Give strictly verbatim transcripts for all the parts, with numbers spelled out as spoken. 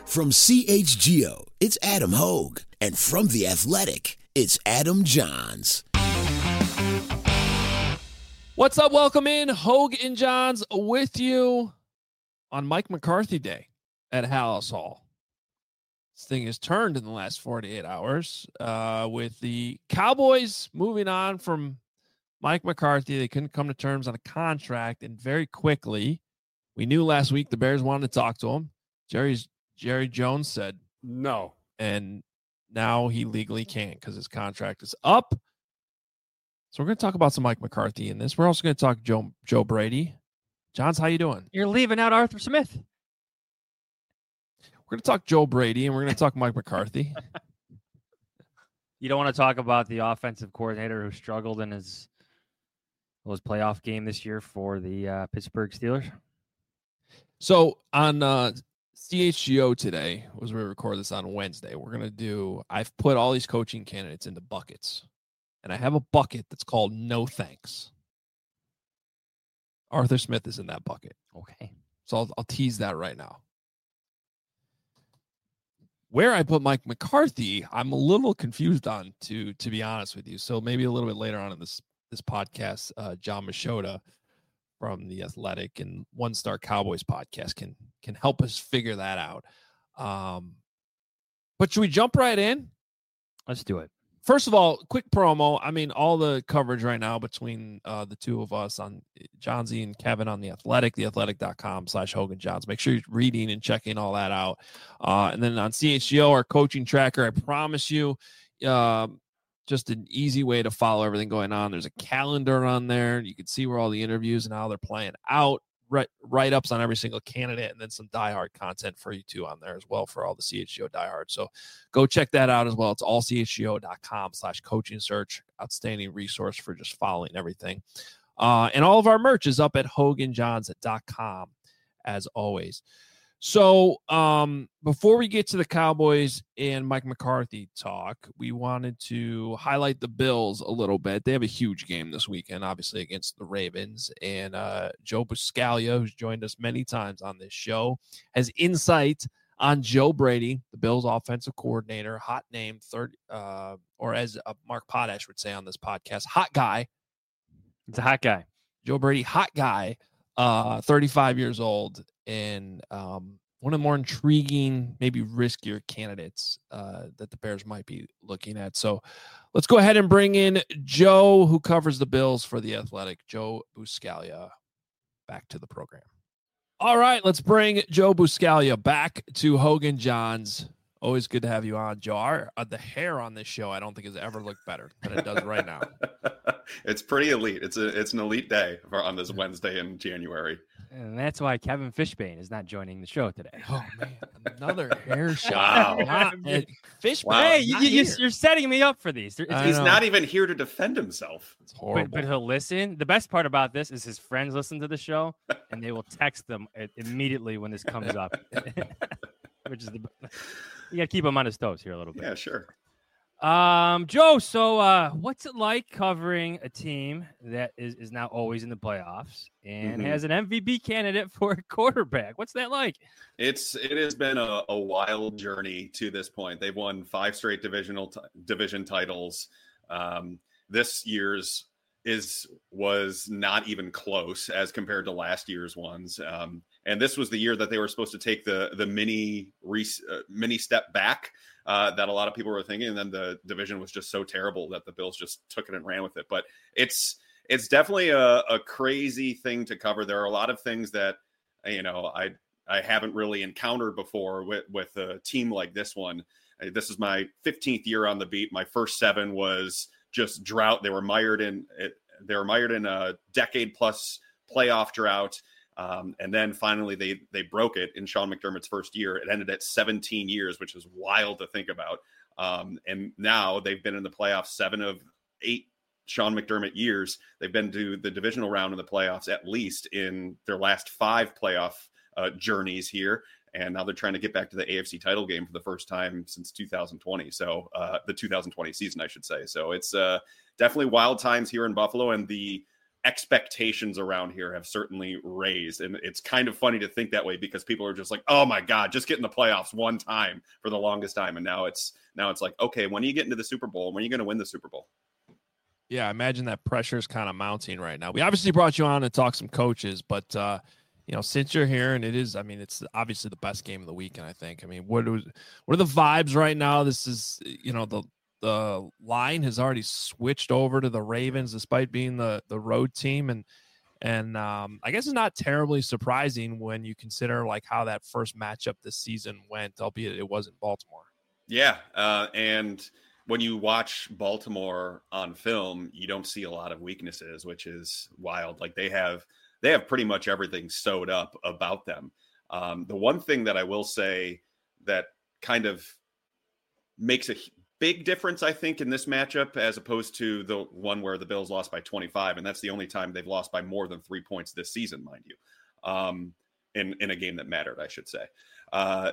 From C H G O, it's Adam Hogue. And from The Athletic, it's Adam Johns. What's up? Welcome in. Hogue and Johns with you on Mike McCarthy Day at Halas Hall. This thing has turned in the last forty-eight hours uh, with the Cowboys moving on from Mike McCarthy. They couldn't come to terms on a contract, and very quickly, we knew last week the Bears wanted to talk to him. Jerry's Jerry Jones said no, and now he legally can't because his contract is up. So we're going to talk about some Mike McCarthy in this. We're also going to talk Joe Joe Brady. Johns, how you doing? You're leaving out Arthur Smith. We're going to talk Joe Brady, and we're going to talk Mike McCarthy. You don't want to talk about the offensive coordinator who struggled in his, his playoff game this year for the uh, Pittsburgh Steelers? So on uh, C H G O today, as we record this on Wednesday, we're going to do, I've put all these coaching candidates into buckets. And I have a bucket that's called no thanks. Arthur Smith is in that bucket. Okay. So I'll, I'll tease that right now. Where I put Mike McCarthy, I'm a little confused on, to to be honest with you. So maybe a little bit later on in this this podcast, uh, John Machota from The Athletic and One Star Cowboys podcast can can help us figure that out. Um, but should we jump right in? Let's do it. First of all, quick promo. I mean, all the coverage right now between uh, the two of us on Johnsy and Kevin on The Athletic, theathletic.com slash Hogan Johns. Make sure you're reading and checking all that out. Uh, and then on C H G O, our coaching tracker, I promise you, uh, just an easy way to follow everything going on. There's a calendar on there. You can see where all the interviews and how they're playing out. Write-ups on every single candidate, and then some diehard content for you too on there as well for all the C H G O diehards. So go check that out as well. It's all C H G O dot com slash coaching search. Outstanding resource for just following everything. Uh, and all of our merch is up at hogan johns dot com as always. So um, before we get to the Cowboys and Mike McCarthy talk, we wanted to highlight the Bills a little bit. They have a huge game this weekend, obviously, against the Ravens. And uh, Joe Buscaglia, who's joined us many times on this show, has insight on Joe Brady, the Bills offensive coordinator, hot name, third, uh, or as uh, Mark Potash would say on this podcast, hot guy. It's a hot guy. Joe Brady, hot guy, uh, thirty-five years old. And um, one of the more intriguing, maybe riskier candidates uh, that the Bears might be looking at. So let's go ahead and bring in Joe, who covers the Bills for The Athletic, Joe Buscaglia, back to the program. All right, let's bring Joe Buscaglia back to Hogan Johns. Always good to have you on, Joe. Our, uh, the hair on this show, I don't think has ever looked better than it does right now. It's pretty elite. It's a it's an elite day for, on this Wednesday in January. And that's why Kevin Fishbane is not joining the show today. Oh, man. Another hair shot. Wow. Fishbane. Wow. Hey, you, you, you're setting me up for these. It's, He's not even here to defend himself. It's horrible. But, but he'll listen. The best part about this is his friends listen to the show, and they will text them immediately when this comes up. Which is the you got to keep him on his toes here a little bit. Yeah, sure. Um, Joe, so uh, what's it like covering a team that is, is now always in the playoffs and Mm-hmm. has an M V P candidate for a quarterback? What's that like? It's it has been a, a wild journey to this point. They've won five straight divisional t- division titles. Um, this year's is was not even close as compared to last year's ones. Um, and this was the year that they were supposed to take the the mini re, uh, mini step back uh, that a lot of people were thinking. And then the division was just so terrible that the Bills just took it and ran with it. But it's it's definitely a, a crazy thing to cover. There are a lot of things that, you know, I I haven't really encountered before with, with a team like this one. This is my fifteenth year on the beat. My first seven was just drought. They were mired in it. They were mired in a decade plus playoff drought. Um, and then finally they, they broke it in Sean McDermott's first year. It ended at seventeen years, which is wild to think about. Um, and now they've been in the playoffs seven of eight Sean McDermott years. They've been to the divisional round of the playoffs, at least in their last five playoff uh, journeys here. And now they're trying to get back to the A F C title game for the first time since two thousand twenty. So uh, the two thousand twenty season, I should say. So it's uh, definitely wild times here in Buffalo. And the expectations around here have certainly raised. And it's kind of funny to think that way because people are just like, oh my God, just get in the playoffs one time for the longest time. And now it's, now it's like, okay, when are you getting to the Super Bowl? When are you going to win the Super Bowl? Yeah, I imagine that pressure is kind of mounting right now. We obviously brought you on to talk some coaches, but uh, you know, since you're here, and it is, I mean, it's obviously the best game of the weekend, I think. I mean, what are, what are the vibes right now? This is, you know, the the line has already switched over to the Ravens, despite being the the road team, and and um, I guess it's not terribly surprising when you consider like how that first matchup this season went, albeit it wasn't Baltimore. Yeah, uh, and when you watch Baltimore on film, you don't see a lot of weaknesses, which is wild. Like they have they have pretty much everything sewed up about them. Um, the one thing that I will say that kind of makes a big difference, I think, in this matchup, as opposed to the one where the Bills lost by twenty-five, and that's the only time they've lost by more than three points this season, mind you, um, in, in a game that mattered, I should say. Uh,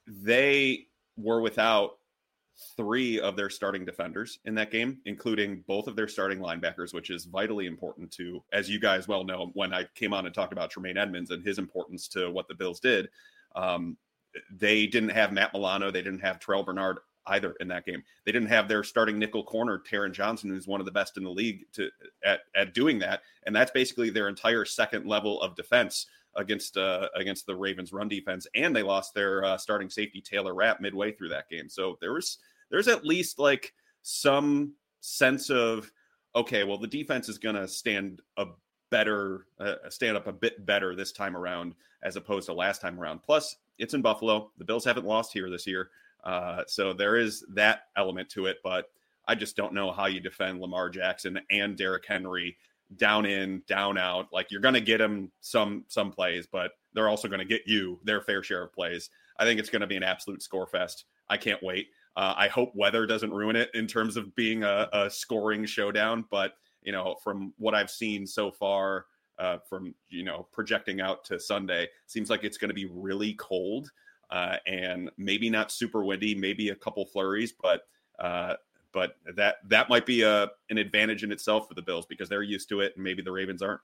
they were without three of their starting defenders in that game, including both of their starting linebackers, which is vitally important to, as you guys well know, when I came on and talked about Tremaine Edmonds and his importance to what the Bills did, um, they didn't have Matt Milano. They didn't have Terrell Bernard either in that game. They didn't have their starting nickel corner, Taron Johnson, who's one of the best in the league to at, at doing that. And that's basically their entire second level of defense against uh, against the Ravens run defense. And they lost their uh, starting safety, Taylor Rapp, midway through that game. So there was, there's at least like some sense of, okay, well, the defense is going to stand a better, uh, stand up a bit better this time around, as opposed to last time around. Plus it's in Buffalo. The Bills haven't lost here this year. Uh, so there is that element to it, but I just don't know how you defend Lamar Jackson and Derrick Henry down in, down out. Like you're going to get them some, some plays, but they're also going to get you their fair share of plays. I think it's going to be an absolute score fest. I can't wait. Uh, I hope weather doesn't ruin it in terms of being a, a scoring showdown, but you know, from what I've seen so far, uh, from, you know, projecting out to Sunday, seems like it's going to be really cold. Uh, and maybe not super windy, maybe a couple flurries, but uh, but that that might be a an advantage in itself for the Bills because they're used to it, and maybe the Ravens aren't.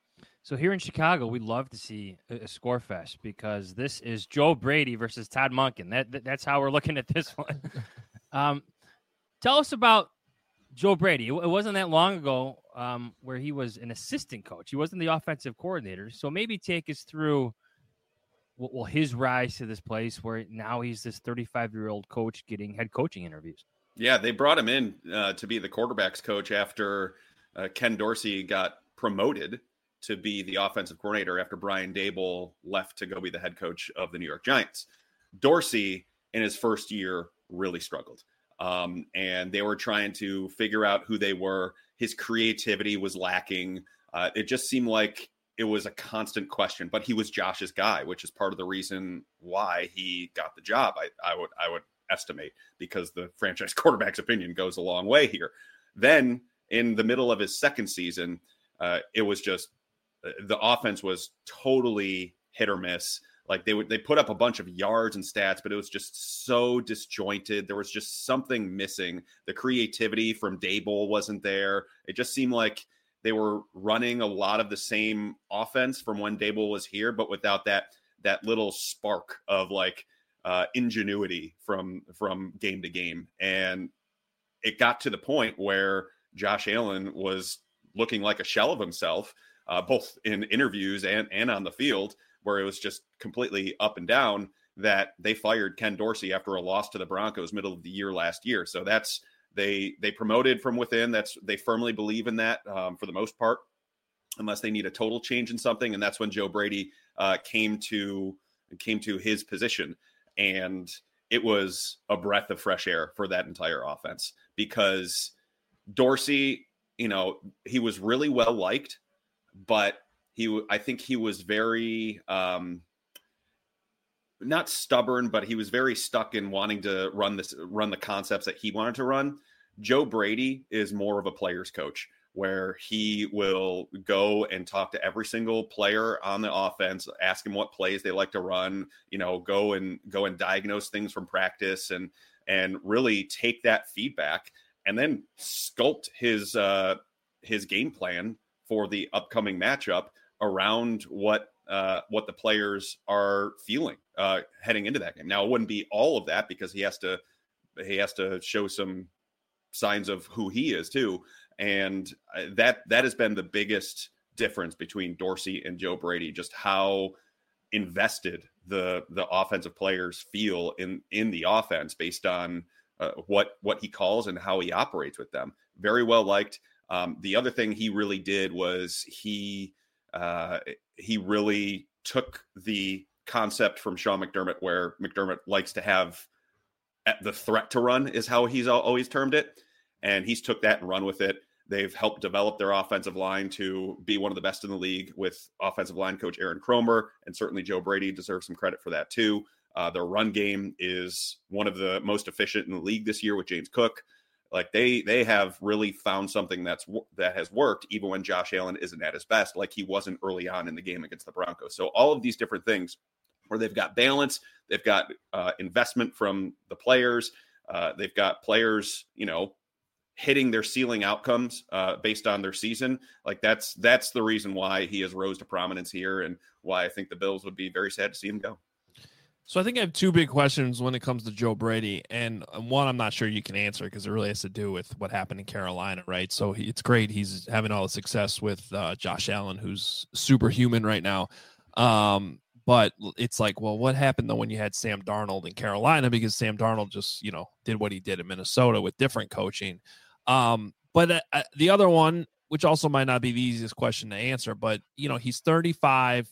So here in Chicago, we love to see a, a score fest because this is Joe Brady versus Todd Monken. That, that that's how we're looking at this one. um, tell us about Joe Brady. It, it wasn't that long ago um, where he was an assistant coach. He wasn't the offensive coordinator. So maybe take us through. Well, his rise to this place where now he's this thirty-five-year-old coach getting head coaching interviews. Yeah, they brought him in uh, to be the quarterback's coach after uh, Ken Dorsey got promoted to be the offensive coordinator after Brian Daboll left to go be the head coach of the New York Giants. Dorsey, in his first year, really struggled. Um, and they were trying to figure out who they were. His creativity was lacking. Uh, it just seemed like it was a constant question, but he was Josh's guy, which is part of the reason why he got the job. I, I would, I would estimate, because the franchise quarterback's opinion goes a long way here. Then in the middle of his second season, uh, it was just, the offense was totally hit or miss. Like they would, they put up a bunch of yards and stats, but it was just so disjointed. There was just something missing. The creativity from Daboll wasn't there. It just seemed like they were running a lot of the same offense from when Daboll was here, but without that that little spark of like uh, ingenuity from from game to game. And it got to the point where Josh Allen was looking like a shell of himself, uh, both in interviews and and on the field, where it was just completely up and down. That they fired Ken Dorsey after a loss to the Broncos middle of the year last year. So that's. They they promoted from within. That's they firmly believe in that um, for the most part, unless they need a total change in something. And that's when Joe Brady uh, came to came to his position, and it was a breath of fresh air for that entire offense because Dorsey, you know, he was really well liked, but he I think he was very. Um, not stubborn, but he was very stuck in wanting to run this, run the concepts that he wanted to run. Joe Brady is more of a player's coach, where he will go and talk to every single player on the offense, ask him what plays they like to run, you know, go and go and diagnose things from practice and, and really take that feedback and then sculpt his, uh, his game plan for the upcoming matchup around what uh, what the players are feeling uh, heading into that game. Now, it wouldn't be all of that because he has to he has to show some signs of who he is too, and that that has been the biggest difference between Dorsey and Joe Brady, just how invested the the offensive players feel in in the offense based on uh, what what he calls and how he operates with them. Very well liked. Um, the other thing he really did was he uh, he really took the concept from Sean McDermott, where McDermott likes to have the threat to run is how he's always termed it, and he's took that and run with it. They've helped develop their offensive line to be one of the best in the league with offensive line coach Aaron Kromer, and certainly Joe Brady deserves some credit for that too. Uh, their run game is one of the most efficient in the league this year with James Cook. Like they they have really found something that's that has worked even when Josh Allen isn't at his best, like he wasn't early on in the game against the Broncos. So all of these different things where they've got balance, they've got uh, investment from the players, uh, they've got players, you know, hitting their ceiling outcomes uh, based on their season. Like that's that's the reason why he has rose to prominence here, and why I think the Bills would be very sad to see him go. So I think I have two big questions when it comes to Joe Brady, and one I'm not sure you can answer because it really has to do with what happened in Carolina, right? So he, it's great he's having all the success with uh, Josh Allen, who's superhuman right now. Um, but it's like, well, what happened though when you had Sam Darnold in Carolina? Because Sam Darnold just, you know, did what he did in Minnesota with different coaching. Um, but uh, the other one, which also might not be the easiest question to answer, but you know, he's thirty-five.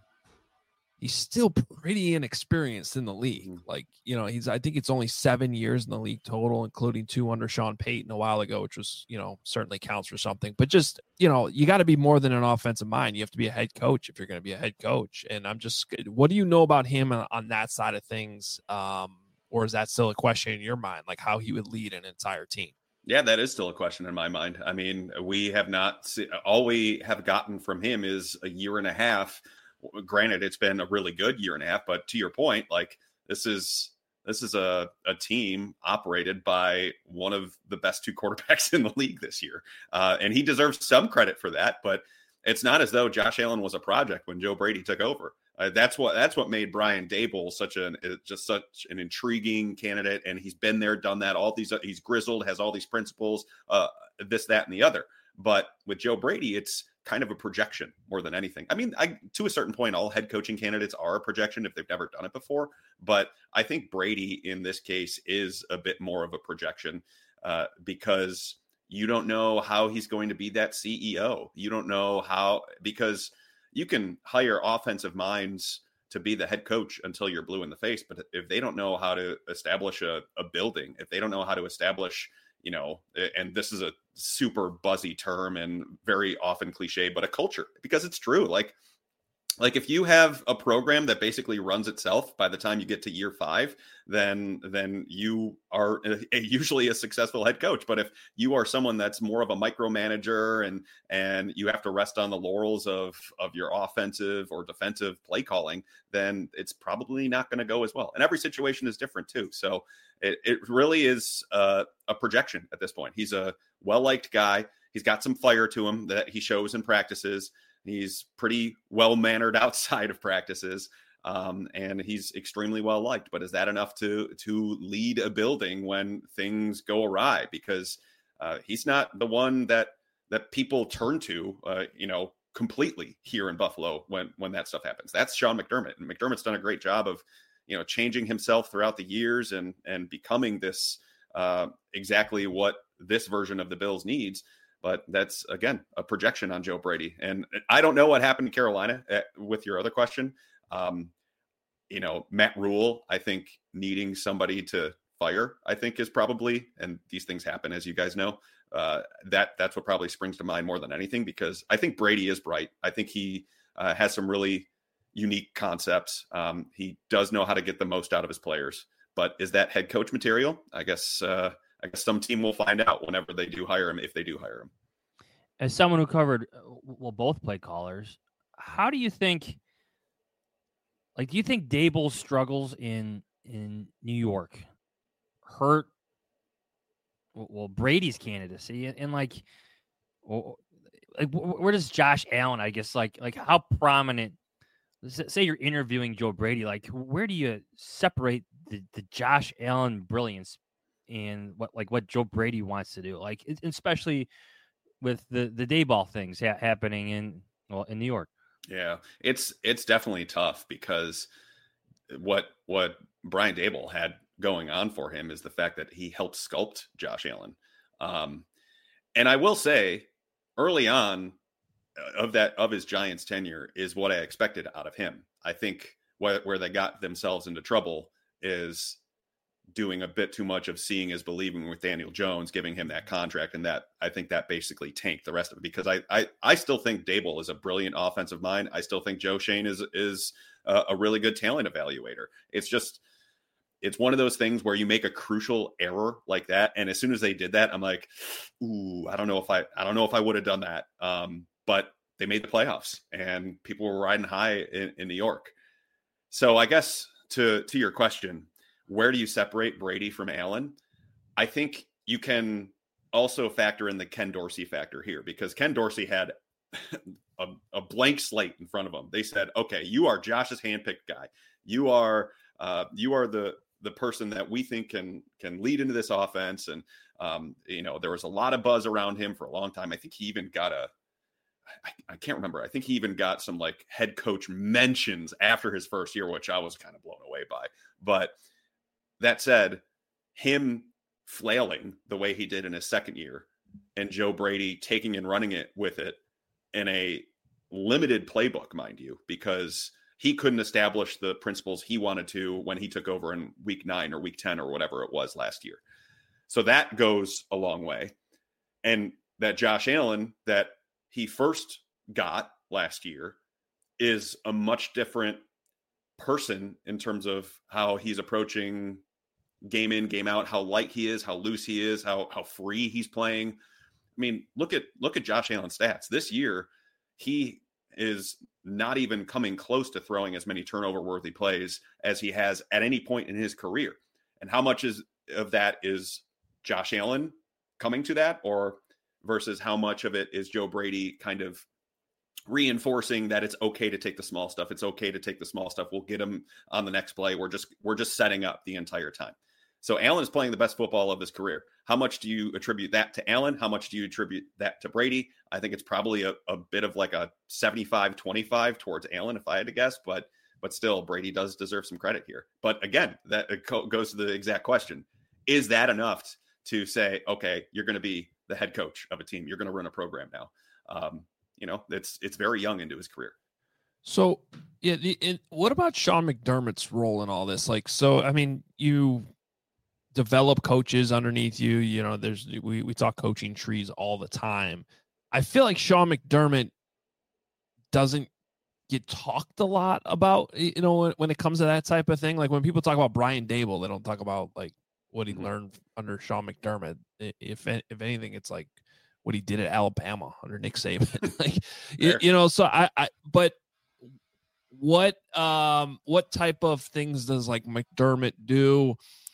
He's still pretty inexperienced in the league. Like, you know, he's, I think it's only seven years in the league total, including two under Sean Payton a while ago, which was, you know, certainly counts for something. But just, you know, you got to be more than an offensive mind. You have to be a head coach if you're going to be a head coach. And I'm just, what do you know about him on, on that side of things? Um, or is that still a question in your mind, like how he would lead an entire team? Yeah, that is still a question in my mind. I mean, we have not, see, all we have gotten from him is a year and a half. Granted, it's been a really good year and a half, but to your point, like this is this is a, a team operated by one of the best two quarterbacks in the league this year. Uh, and he deserves some credit for that, but it's not as though Josh Allen was a project when Joe Brady took over. Uh, that's what that's what made Brian Daboll such an just such an intriguing candidate. And he's been there, done that. All these he's grizzled, has all these principles, uh, this, that, and the other. But with Joe Brady, it's kind of a projection more than anything. I mean, I, to a certain point, all head coaching candidates are a projection if they've never done it before. But I think Brady in this case is a bit more of a projection uh, because you don't know how he's going to be that C E O. You don't know how, because you can hire offensive minds to be the head coach until you're blue in the face. But if they don't know how to establish a, a building, if they don't know how to establish, you know, and this is a super buzzy term and very often cliche, but a culture, because it's true. Like, like if you have a program that basically runs itself by the time you get to year five, then, then you are a, a, usually a successful head coach. But if you are someone that's more of a micromanager and, and you have to rest on the laurels of, of your offensive or defensive play calling, then it's probably not going to go as well. And every situation is different too. So it, it really is a, a projection at this point. He's a well-liked guy. He's got some fire to him that he shows in practices. He's pretty well-mannered outside of practices, um, and he's extremely well-liked. But is that enough to to lead a building when things go awry? Because uh, he's not the one that that people turn to, uh, you know, completely here in Buffalo when when that stuff happens. That's Sean McDermott, and McDermott's done a great job of, you know, changing himself throughout the years and and becoming this uh, exactly what this version of the Bills needs. But that's, again, a projection on Joe Brady. And I don't know what happened in Carolina uh, with your other question. Um, you know, Matt Rule, I think needing somebody to fire, I think is probably, and these things happen, as you guys know, uh, that that's what probably springs to mind more than anything, because I think Brady is bright. I think he uh, has some really unique concepts. Um, he does know how to get the most out of his players. But is that head coach material? I guess uh, I guess some team will find out whenever they do hire him, if they do hire him. As someone who covered, well, both play callers, how do you think, like, do you think Daboll's struggles in in New York hurt, well, Brady's candidacy? And, and like, well, like where does Josh Allen, I guess, like like how prominent? Say you're interviewing Joe Brady, like where do you separate the, the Josh Allen brilliance and what like what Joe Brady wants to do, like especially with the the Daboll things ha- happening in well in New York? Yeah, it's it's definitely tough because what what Brian Daboll had going on for him is the fact that he helped sculpt Josh Allen, um, and I will say early on of that of his Giants tenure is what I expected out of him. I think where where they got themselves into trouble is doing a bit too much of seeing is believing with Daniel Jones, giving him that contract. And that, I think that basically tanked the rest of it, because I, I, I still think Daboll is a brilliant offensive mind. I still think Joe Schoen is, is a, a really good talent evaluator. It's just, it's one of those things where you make a crucial error like that. And as soon as they did that, I'm like, ooh, I don't know if I, I don't know if I would have done that. Um, but they made the playoffs and people were riding high in, in New York. So I guess to, to your question, where do you separate Brady from Allen? I think you can also factor in the Ken Dorsey factor here, because Ken Dorsey had a, a blank slate in front of him. They said, okay, you are Josh's handpicked guy. You are, uh, you are the, the person that we think can, can lead into this offense. And, um, you know, there was a lot of buzz around him for a long time. I think he even got a, I, I can't remember. I think he even got some like head coach mentions after his first year, which I was kind of blown away by. But that said, him flailing the way he did in his second year and Joe Brady taking and running it with it in a limited playbook, mind you, because he couldn't establish the principles he wanted to when he took over in week nine or week ten or whatever it was last year. So that goes a long way. And that Josh Allen that he first got last year is a much different person in terms of how he's approaching game in, game out, how light he is, how loose he is, how how free he's playing. I mean, look at look at Josh Allen's stats. This year, he is not even coming close to throwing as many turnover-worthy plays as he has at any point in his career. And how much is of that is Josh Allen coming to that, or versus how much of it is Joe Brady kind of reinforcing that it's okay to take the small stuff. It's okay to take the small stuff. We'll get him on the next play. We're just we're just setting up the entire time. So Allen is playing the best football of his career. How much do you attribute that to Allen? How much do you attribute that to Brady? I think it's probably a, a bit of like a seventy-five twenty-five towards Allen, if I had to guess, but but still Brady does deserve some credit here. But again, that goes to the exact question. Is that enough to say, okay, you're going to be the head coach of a team. You're going to run a program now. Um, you know, it's, it's very young into his career. So yeah. The, it, what about Sean McDermott's role in all this? Like, so, I mean, you develop coaches underneath you, you know, there's, we, we talk coaching trees all the time. I feel like Sean McDermott doesn't get talked a lot about, you know, when, when it comes to that type of thing. Like when people talk about Brian Daboll, they don't talk about like what he mm-hmm. learned under Sean McDermott. If, if anything, it's like what he did at Alabama under Nick Saban. like, you, you know, so I, I, but what, um, what type of things does like McDermott do?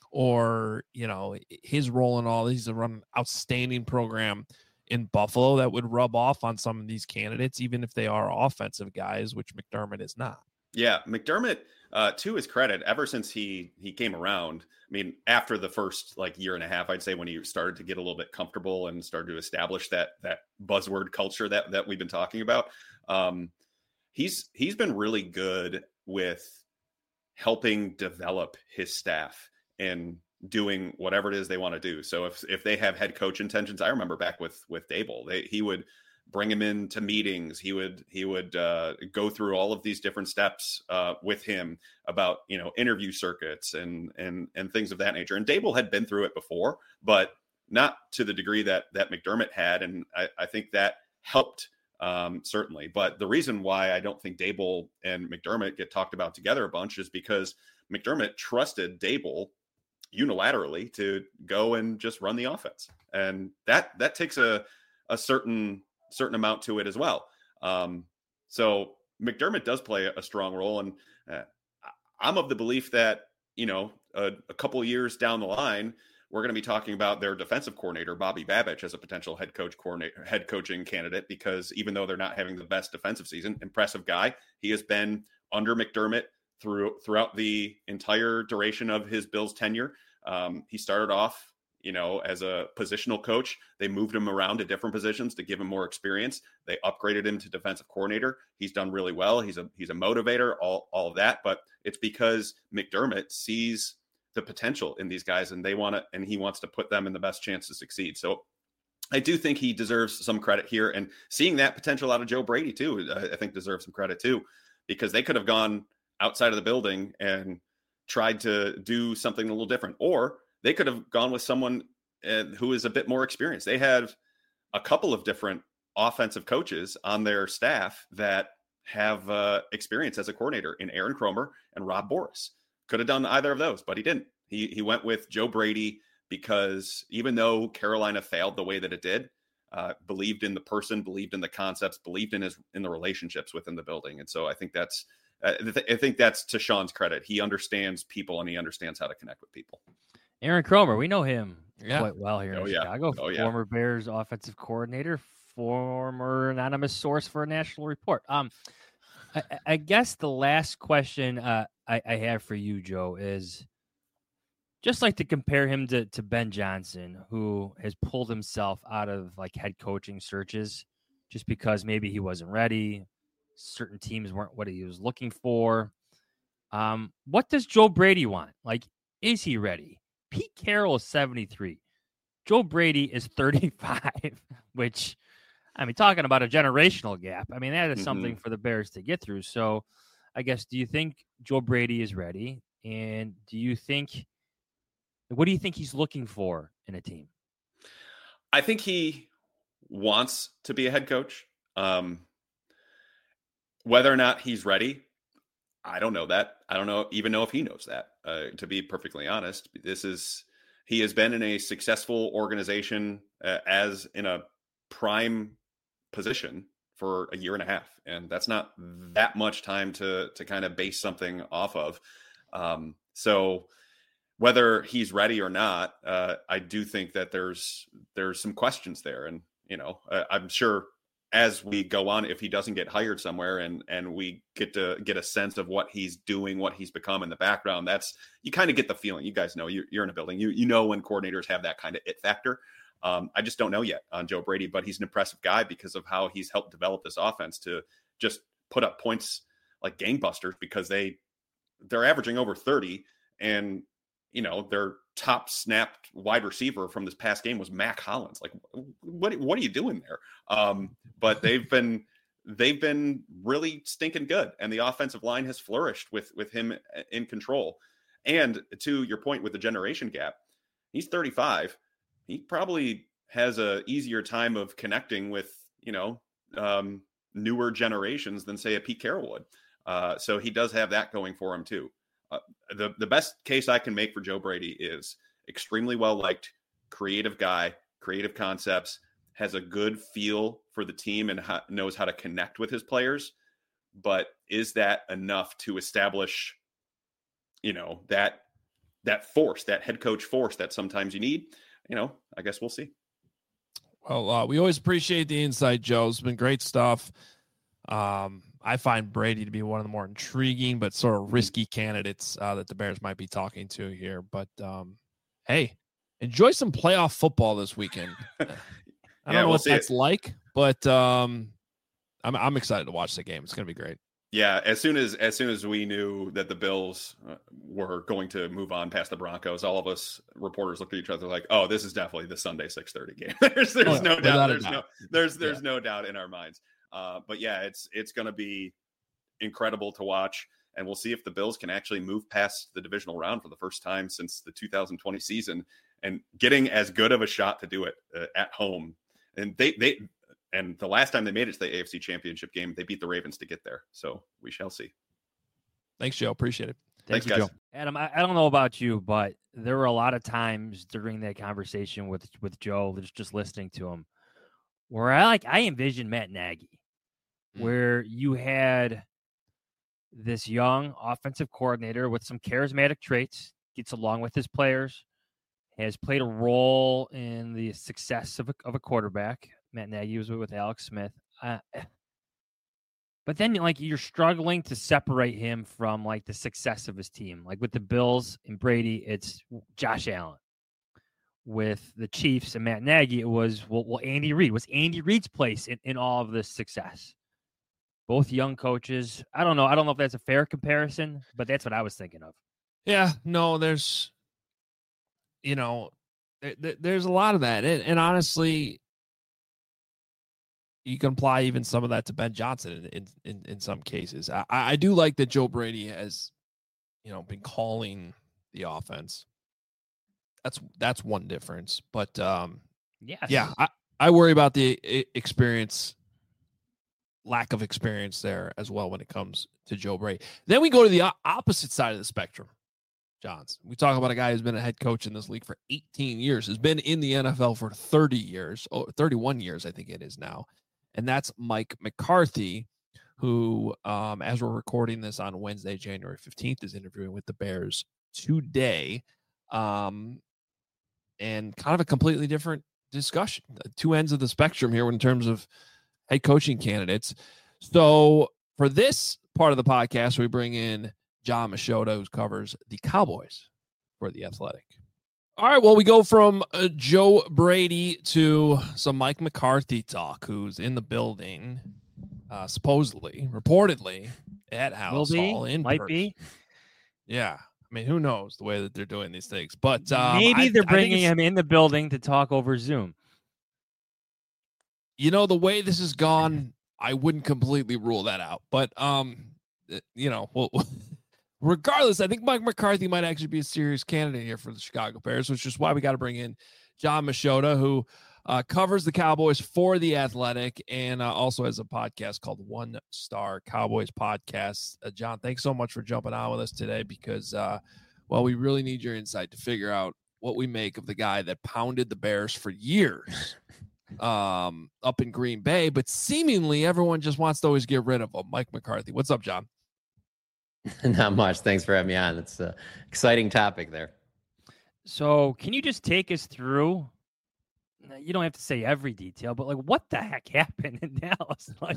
Or, you know, his role in all these, to run an outstanding program in Buffalo that would rub off on some of these candidates, even if they are offensive guys, which McDermott is not. Yeah, McDermott, uh, to his credit, ever since he he came around, I mean, after the first like year and a half, I'd say when he started to get a little bit comfortable and started to establish that that buzzword culture that that we've been talking about, um, he's he's been really good with helping develop his staff and doing whatever it is they want to do. So if if they have head coach intentions, I remember back with with Daboll, they, he would bring him into meetings. He would he would uh, go through all of these different steps uh, with him about, you know, interview circuits and and and things of that nature. And Daboll had been through it before, but not to the degree that that McDermott had. And I, I think that helped um, certainly. But the reason why I don't think Daboll and McDermott get talked about together a bunch is because McDermott trusted Daboll unilaterally to go and just run the offense. And that, that takes a, a certain, certain amount to it as well. Um, so McDermott does play a strong role. And uh, I'm of the belief that, you know, a, a couple of years down the line, we're going to be talking about their defensive coordinator, Bobby Babich, as a potential head coach coordinator, head coaching candidate, because even though they're not having the best defensive season, impressive guy, he has been under McDermott through throughout the entire duration of his Bills tenure. Um, he started off, you know, as a positional coach. They moved him around to different positions to give him more experience. They upgraded him to defensive coordinator. He's done really well. He's a he's a motivator, all, all of that. But it's because McDermott sees the potential in these guys, and they want to, and he wants to put them in the best chance to succeed. So I do think he deserves some credit here. And seeing that potential out of Joe Brady too, I think deserves some credit too, because they could have gone outside of the building and tried to do something a little different, or they could have gone with someone uh, who is a bit more experienced. They have a couple of different offensive coaches on their staff that have uh, experience as a coordinator in Aaron Kromer and Rob Boris. Could have done either of those, but he didn't. He he went with Joe Brady because even though Carolina failed the way that it did, uh, believed in the person, believed in the concepts, believed in his in the relationships within the building. And so I think that's uh, th- I think that's to Sean's credit. He understands people and he understands how to connect with people. Aaron Kromer, we know him yeah. quite well here oh, in yeah. Chicago. Oh, yeah. Former Bears offensive coordinator, former anonymous source for a national report. Um, I, I guess the last question uh, I, I have for you, Joe, is just like to compare him to, to Ben Johnson, who has pulled himself out of like head coaching searches just because maybe he wasn't ready. Certain teams weren't what he was looking for. Um, what does Joe Brady want? Like, is he ready? Pete Carroll is seventy-three. Joe Brady is thirty-five, which, I mean, talking about a generational gap. I mean, that is mm-hmm. something for the Bears to get through. So I guess, do you think Joe Brady is ready? And do you think, what do you think he's looking for in a team? I think he wants to be a head coach. Um, whether or not he's ready, I don't know that. I don't know, even know if he knows that, uh, to be perfectly honest. This is, he has been in a successful organization uh, as in a prime position for a year and a half. And that's not that much time to, to kind of base something off of. Um, so whether he's ready or not, uh, I do think that there's, there's some questions there. And, you know, uh, I'm sure as we go on, if he doesn't get hired somewhere and, and we get to get a sense of what he's doing, what he's become in the background, that's, you kind of get the feeling. You guys know, you, you're in a building, you, you know, when coordinators have that kind of it factor. Um, I just don't know yet on Joe Brady, but he's an impressive guy because of how he's helped develop this offense to just put up points like gangbusters, because they, they're averaging over thirty, and, you know, their top snapped wide receiver from this past game was Mac Hollins. Like, what, what are you doing there? Um, but they've been, they've been really stinking good. And the offensive line has flourished with, with him in control. And to your point with the generation gap, he's thirty-five. He probably has a easier time of connecting with, you know, um, newer generations than say a Pete Carroll would. Uh, so he does have that going for him too. Uh, the, the best case I can make for Joe Brady is extremely well-liked, creative guy, creative concepts, has a good feel for the team and ha- knows how to connect with his players. But is that enough to establish, you know, that, that force, that head coach force that sometimes you need? You know, I guess we'll see. Well, uh, we always appreciate the insight, Joe. It's been great stuff. Um, I find Brady to be one of the more intriguing but sort of risky candidates uh, that the Bears might be talking to here. But, um, hey, enjoy some playoff football this weekend. I don't yeah, know we'll what that's it. like, but um, I'm I'm excited to watch the game. It's going to be great. Yeah, as soon as as soon as we knew that the Bills uh, were going to move on past the Broncos, all of us reporters looked at each other like, "Oh, this is definitely the Sunday six thirty game." there's there's oh, no doubt. There's doubt. no there's there's yeah. no doubt in our minds. Uh, but yeah, it's it's going to be incredible to watch, and we'll see if the Bills can actually move past the divisional round for the first time since the two thousand twenty season, and getting as good of a shot to do it uh, at home. And they they. And the last time they made it to the A F C Championship game, they beat the Ravens to get there. So we shall see. Thanks, Joe. Appreciate it. Thanks, Thank you, guys. Joe. Adam, I, I don't know about you, but there were a lot of times during that conversation with, with Joe, just, just listening to him, where I like I envisioned Matt Nagy, mm. where you had this young offensive coordinator with some charismatic traits, gets along with his players, has played a role in the success of a, of a quarterback. Matt Nagy was with Alex Smith. Uh, but then, like, you're struggling to separate him from, like, the success of his team. Like, with the Bills and Brady, it's Josh Allen. With the Chiefs and Matt Nagy, it was, well, well Andy Reid. Was Andy Reid's place in, in all of this success? Both young coaches. I don't know. I don't know if that's a fair comparison, but that's what I was thinking of. Yeah, no, there's, you know, there, there's a lot of that. And, and honestly, you can apply even some of that to Ben Johnson in, in, in some cases. I, I do like that Joe Brady has, you know, been calling the offense. That's, that's one difference, but um, yes. yeah, I, I worry about the experience, lack of experience there as well when it comes to Joe Brady. Then we go to the opposite side of the spectrum. Johns. We talk about a guy who's been a head coach in this league for eighteen years, has been in the N F L for thirty years, oh, thirty-one years, I think it is now. And that's Mike McCarthy, who, um, as we're recording this on Wednesday, January fifteenth, is interviewing with the Bears today. Um, and kind of a completely different discussion, two ends of the spectrum here in terms of head coaching candidates. So for this part of the podcast, we bring in Jon Machota, who covers the Cowboys for The Athletic. All right, well, we go from uh, Joe Brady to some Mike McCarthy talk, who's in the building, uh, supposedly, reportedly, at House Hall in Might person. be. Yeah. I mean, who knows the way that they're doing these things. But um, maybe I, they're I bringing him in the building to talk over Zoom. You know, the way this has gone, I wouldn't completely rule that out. But, um, you know, well, regardless, I think Mike McCarthy might actually be a serious candidate here for the Chicago Bears, which is why we got to bring in Jon Machota, who uh, covers the Cowboys for The Athletic and uh, also has a podcast called One Star Cowboys Podcast. Uh, John, thanks so much for jumping on with us today because, uh, well, we really need your insight to figure out what we make of the guy that pounded the Bears for years um, up in Green Bay, but seemingly everyone just wants to always get rid of him. Mike McCarthy. What's up, John? Not much. Thanks for having me on. It's an exciting topic there. So can you just take us through, you don't have to say every detail, but like what the heck happened in Dallas? Like,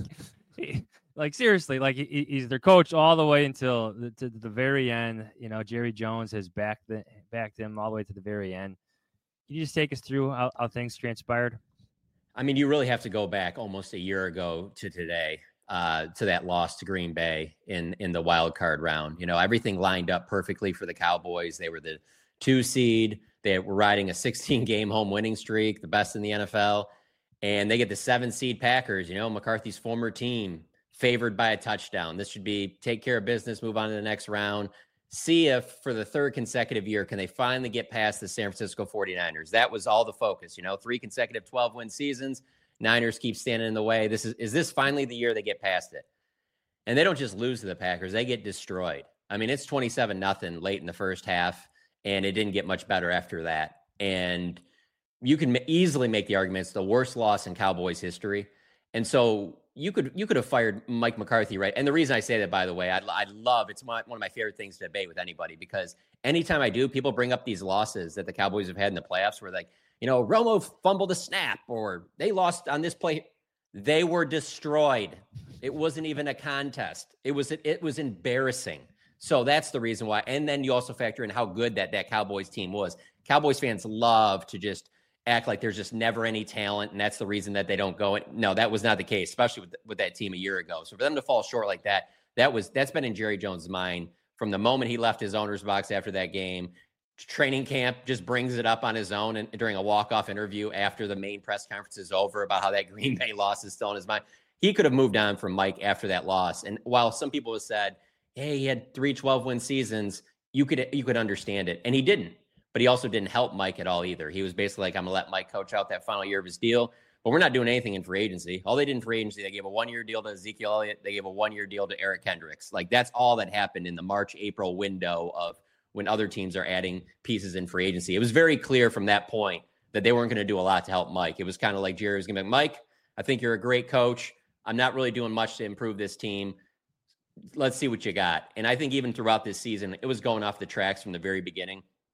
like seriously, like he, he's their coach all the way until the, to the very end. You know, Jerry Jones has backed, the, backed him all the way to the very end. Can you just take us through how, how things transpired? I mean, you really have to go back almost a year ago to today. Uh, to that loss to Green Bay in, in the wild card round. You know, everything lined up perfectly for the Cowboys. They were the two seed. They were riding a sixteen game home winning streak, the best in the N F L. And they get the seven seed Packers, you know, McCarthy's former team, favored by a touchdown. This should be take care of business, move on to the next round. See if for the third consecutive year, can they finally get past the San Francisco forty-niners? That was all the focus, you know, three consecutive twelve win seasons. Niners keep standing in the way. This is, is this finally the year they get past it? And they don't just lose to the Packers. They get destroyed. I mean, it's twenty-seven nothing late in the first half, and it didn't get much better after that. And you can easily make the argument it's the worst loss in Cowboys history. And so you could you could have fired Mike McCarthy, right? And the reason I say that, by the way, I, I love, it's my, one of my favorite things to debate with anybody, because anytime I do, people bring up these losses that the Cowboys have had in the playoffs where like, you know, Romo fumbled a snap or they lost on this play. They were destroyed. It wasn't even a contest. It was it was embarrassing. So that's the reason why. And then you also factor in how good that that Cowboys team was. Cowboys fans love to just act like there's just never any talent, and that's the reason that they don't go. No, that was not the case, especially with with that team a year ago. So for them to fall short like that, that was that's been in Jerry Jones' mind from the moment he left his owner's box after that game. Training camp just brings it up on his own and during a walk-off interview after the main press conference is over about how that Green Bay loss is still in his mind. He could have moved on from Mike after that loss. And while some people have said, hey, he had three twelve win seasons, you could you could understand it. And he didn't. But he also didn't help Mike at all either. He was basically like, I'm going to let Mike coach out that final year of his deal. But we're not doing anything in free agency. All they did in free agency, they gave a one-year deal to Ezekiel Elliott. They gave a one-year deal to Eric Kendricks. Like, that's all that happened in the March, April window of when other teams are adding pieces in free agency. It was very clear from that point that they weren't going to do a lot to help Mike. It was kind of like Jerry was going to be like, Mike, I think you're a great coach. I'm not really doing much to improve this team. Let's see what you got. And I think even throughout this season, it was going off the tracks from the very beginning.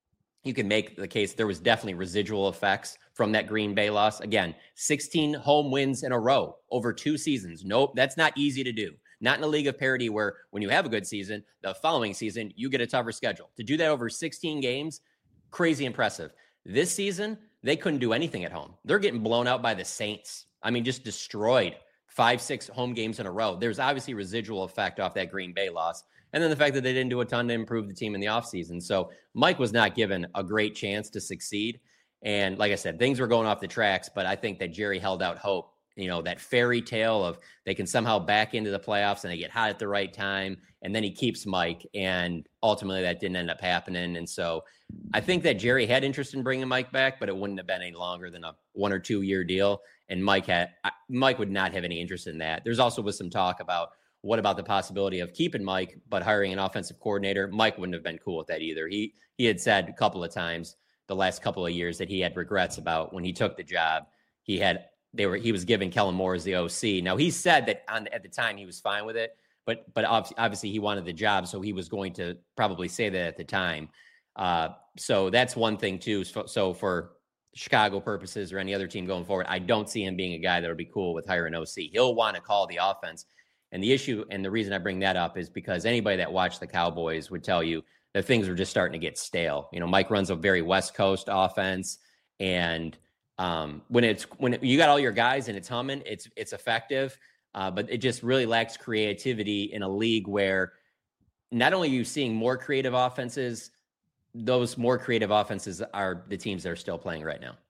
you can make the case there was definitely residual effects from that Green Bay loss. Again, sixteen home wins in a row over two seasons. Nope, that's not easy to do. Not in a league of parity where when you have a good season, the following season, you get a tougher schedule. To do that over sixteen games, crazy impressive. This season, they couldn't do anything at home. They're getting blown out by the Saints. I mean, just destroyed five, six home games in a row. There's obviously residual effect off that Green Bay loss. And then the fact that they didn't do a ton to improve the team in the offseason. So Mike was not given a great chance to succeed. And like I said, things were going off the tracks, but I think that Jerry held out hope. You know, that fairy tale of they can somehow back into the playoffs and they get hot at the right time. And then he keeps Mike. And ultimately that didn't end up happening. And so I think that Jerry had interest in bringing Mike back, but it wouldn't have been any longer than a one or two year deal. And Mike had, Mike would not have any interest in that. There's also was some talk about what about the possibility of keeping Mike, but hiring an offensive coordinator. Mike wouldn't have been cool with that either. He, he had said a couple of times the last couple of years that he had regrets about when he took the job. He had, They were. He was giving Kellen Moore as the O C. Now he said that on, at the time he was fine with it, but but obviously he wanted the job, so he was going to probably say that at the time. Uh, so that's one thing too. So, so for Chicago purposes or any other team going forward, I don't see him being a guy that would be cool with hiring an O C. He'll want to call the offense, and the issue and the reason I bring that up is because anybody that watched the Cowboys would tell you that things were just starting to get stale. You know, Mike runs a very West Coast offense, and Um, when it's when it, you got all your guys and it's humming, it's it's effective, uh, but it just really lacks creativity in a league where not only are you seeing more creative offenses, those more creative offenses are the teams that are still playing right now.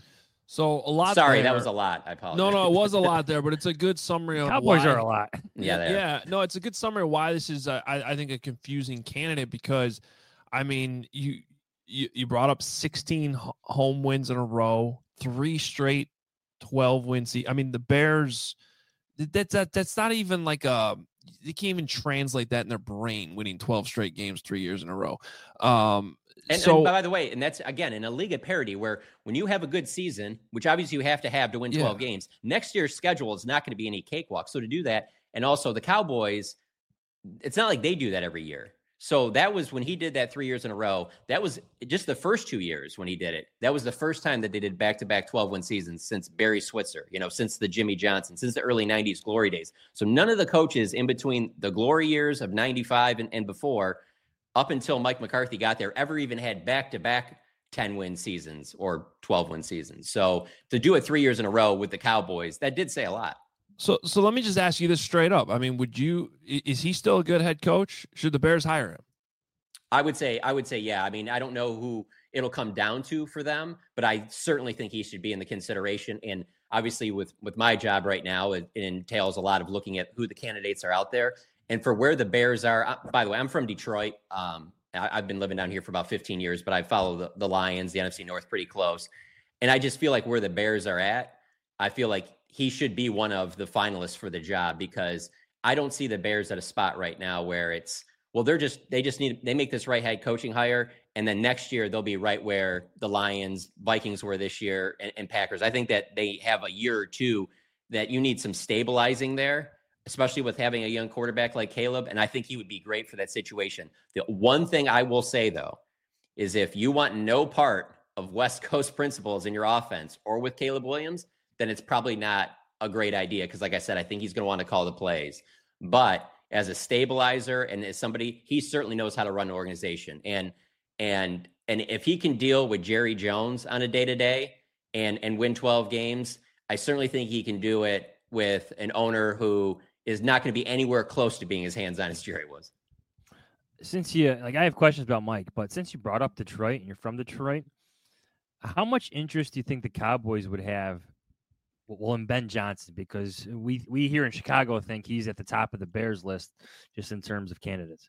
So a lot. Sorry, there. that was a lot. I apologize. No, no, it was a lot there, but it's a good summary of Cowboys why, are a lot. Yeah, they are. yeah. No, it's a good summary of why this is, uh, I, I think, a confusing candidate because, I mean, you you, you brought up sixteen home wins in a row. Three straight twelve wins. I mean, the Bears, that's that, that's not even like a, they can't even translate that in their brain, winning twelve straight games three years in a row. Um, and, so, and by the way, and that's, again, in a league of parity where when you have a good season, which obviously you have to have to win twelve yeah. games, next year's schedule is not going to be any cakewalk. So to do that, and also the Cowboys, it's not like they do that every year. So that was when he did that three years in a row. That was just the first two years when he did it. That was the first time that they did back-to-back twelve-win seasons since Barry Switzer, you know, since the Jimmy Johnson, since the early nineties glory days. So none of the coaches in between the glory years of ninety-five and, and before, up until Mike McCarthy got there, ever even had back-to-back ten-win seasons or twelve-win seasons. So to do it three years in a row with the Cowboys, that did say a lot. So, so let me just ask you this straight up. I mean, would you, is he still a good head coach? Should the Bears hire him? I would say, I would say, yeah. I mean, I don't know who it'll come down to for them, but I certainly think he should be in the consideration. And obviously with, with my job right now, it, it entails a lot of looking at who the candidates are out there and for where the Bears are. By the way, I'm from Detroit. Um, I, I've been living down here for about fifteen years, but I follow the, the Lions, the N F C North pretty close. And I just feel like where the Bears are at, I feel like he should be one of the finalists for the job because I don't see the Bears at a spot right now where it's, well, they're just, they just need, they make this right head coaching hire. And then next year they'll be right where the Lions, Vikings were this year and, and Packers. I think that they have a year or two that you need some stabilizing there, especially with having a young quarterback like Caleb. And I think he would be great for that situation. The one thing I will say though, is if you want no part of West Coast principles in your offense or with Caleb Williams, then it's probably not a great idea. Cause like I said, I think he's going to want to call the plays, but as a stabilizer and as somebody, he certainly knows how to run an organization. And, and, and if he can deal with Jerry Jones on a day to day and, and win twelve games, I certainly think he can do it with an owner who is not going to be anywhere close to being as hands-on as Jerry was. Since you, like, I have questions about Mike, but since you brought up Detroit and you're from Detroit, how much interest do you think the Cowboys would have Well, in Ben Johnson, because we we here in Chicago think he's at the top of the Bears list just in terms of candidates?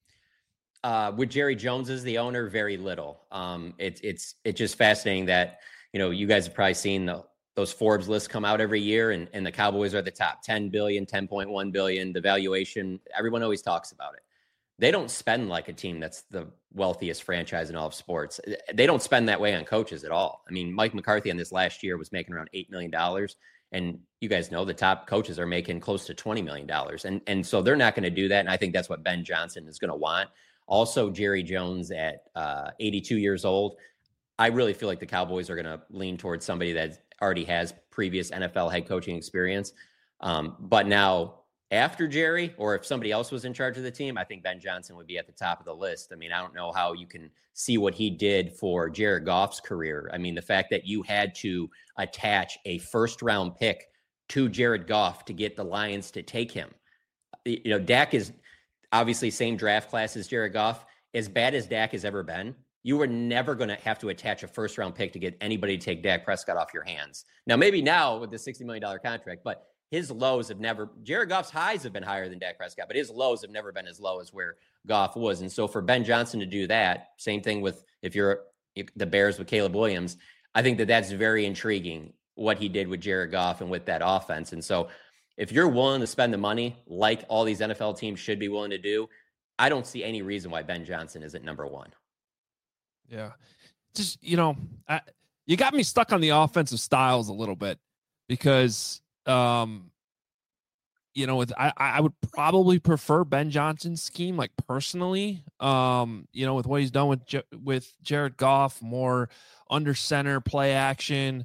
Uh, with Jerry Jones as the owner, very little. Um, it's it's it's just fascinating that, you know, you guys have probably seen the, those Forbes lists come out every year, and, and the Cowboys are at the top, ten billion, ten point one billion, the valuation. Everyone always talks about it. They don't spend like a team that's the wealthiest franchise in all of sports. They don't spend that way on coaches at all. I mean, Mike McCarthy on this last year was making around eight million dollars. And you guys know the top coaches are making close to twenty million dollars. And, and so they're not going to do that. And I think that's what Ben Johnson is going to want. Also, Jerry Jones at uh, eighty-two years old. I really feel like the Cowboys are going to lean towards somebody that already has previous N F L head coaching experience. Um, but now after Jerry, or if somebody else was in charge of the team, I think Ben Johnson would be at the top of the list. I mean, I don't know how you can see what he did for Jared Goff's career. I mean, the fact that you had to attach a first round pick to Jared Goff to get the Lions to take him. You know, Dak is obviously same draft class as Jared Goff. As bad as Dak has ever been, you were never going to have to attach a first round pick to get anybody to take Dak Prescott off your hands. Now, maybe now with the sixty million dollars contract, but his lows have never, Jared Goff's highs have been higher than Dak Prescott, but his lows have never been as low as where Goff was. And so for Ben Johnson to do that, same thing with if you're if the Bears with Caleb Williams, I think that that's very intriguing what he did with Jared Goff and with that offense. And so if you're willing to spend the money like all these N F L teams should be willing to do, I don't see any reason why Ben Johnson isn't number one. Yeah. Just, you know, I, you got me stuck on the offensive styles a little bit because, um, you know, with I, I would probably prefer Ben Johnson's scheme, like personally, um, you know, with what he's done with with Jared Goff, more under center play action.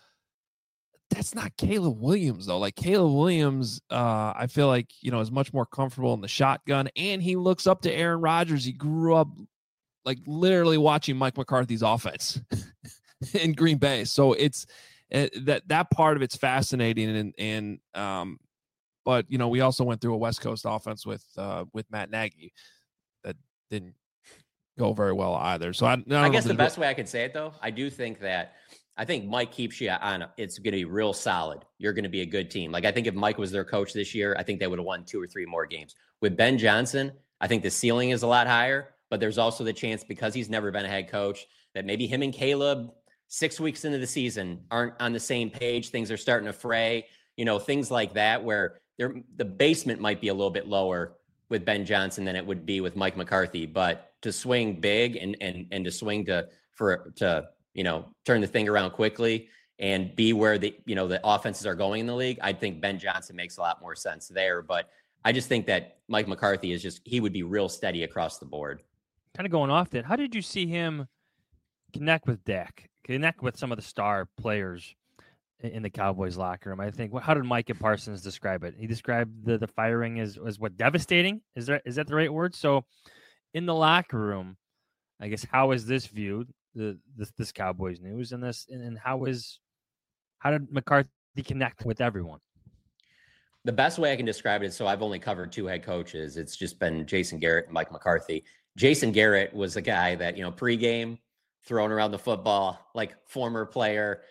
That's not Caleb Williams though. Like Caleb Williams, uh, I feel like you know is much more comfortable in the shotgun, and he looks up to Aaron Rodgers. He grew up like literally watching Mike McCarthy's offense in Green Bay, so it's. Uh, that that part of it's fascinating, and and um, but you know we also went through a West Coast offense with uh, with Matt Nagy that didn't go very well either. So I, I, I guess the best way I could say it though, I do think that I think Mike keeps you on. It's going to be real solid. You're going to be a good team. Like I think if Mike was their coach this year, I think they would have won two or three more games. With Ben Johnson, I think the ceiling is a lot higher, but there's also the chance because he's never been a head coach that maybe him and Caleb. Six weeks into the season aren't on the same page. Things are starting to fray, you know, things like that, where they're, the basement might be a little bit lower with Ben Johnson than it would be with Mike McCarthy. But to swing big and and and to swing to for to you know turn the thing around quickly and be where the you know the offenses are going in the league, I think Ben Johnson makes a lot more sense there. But I just think that Mike McCarthy is just he would be real steady across the board. Kind of going off that, how did you see him connect with Dak? Connect with some of the star players in the Cowboys locker room. I think, how did Micah Parsons describe it? He described the, the firing as, as what, devastating? Is that, is that the right word? So in the locker room, I guess, how is this viewed, the this, this Cowboys news and this, and, and how is, how did McCarthy connect with everyone? The best way I can describe it is, so I've only covered two head coaches. It's just been Jason Garrett and Mike McCarthy. Jason Garrett was a guy that, you know, pregame, throwing around the football, like former player,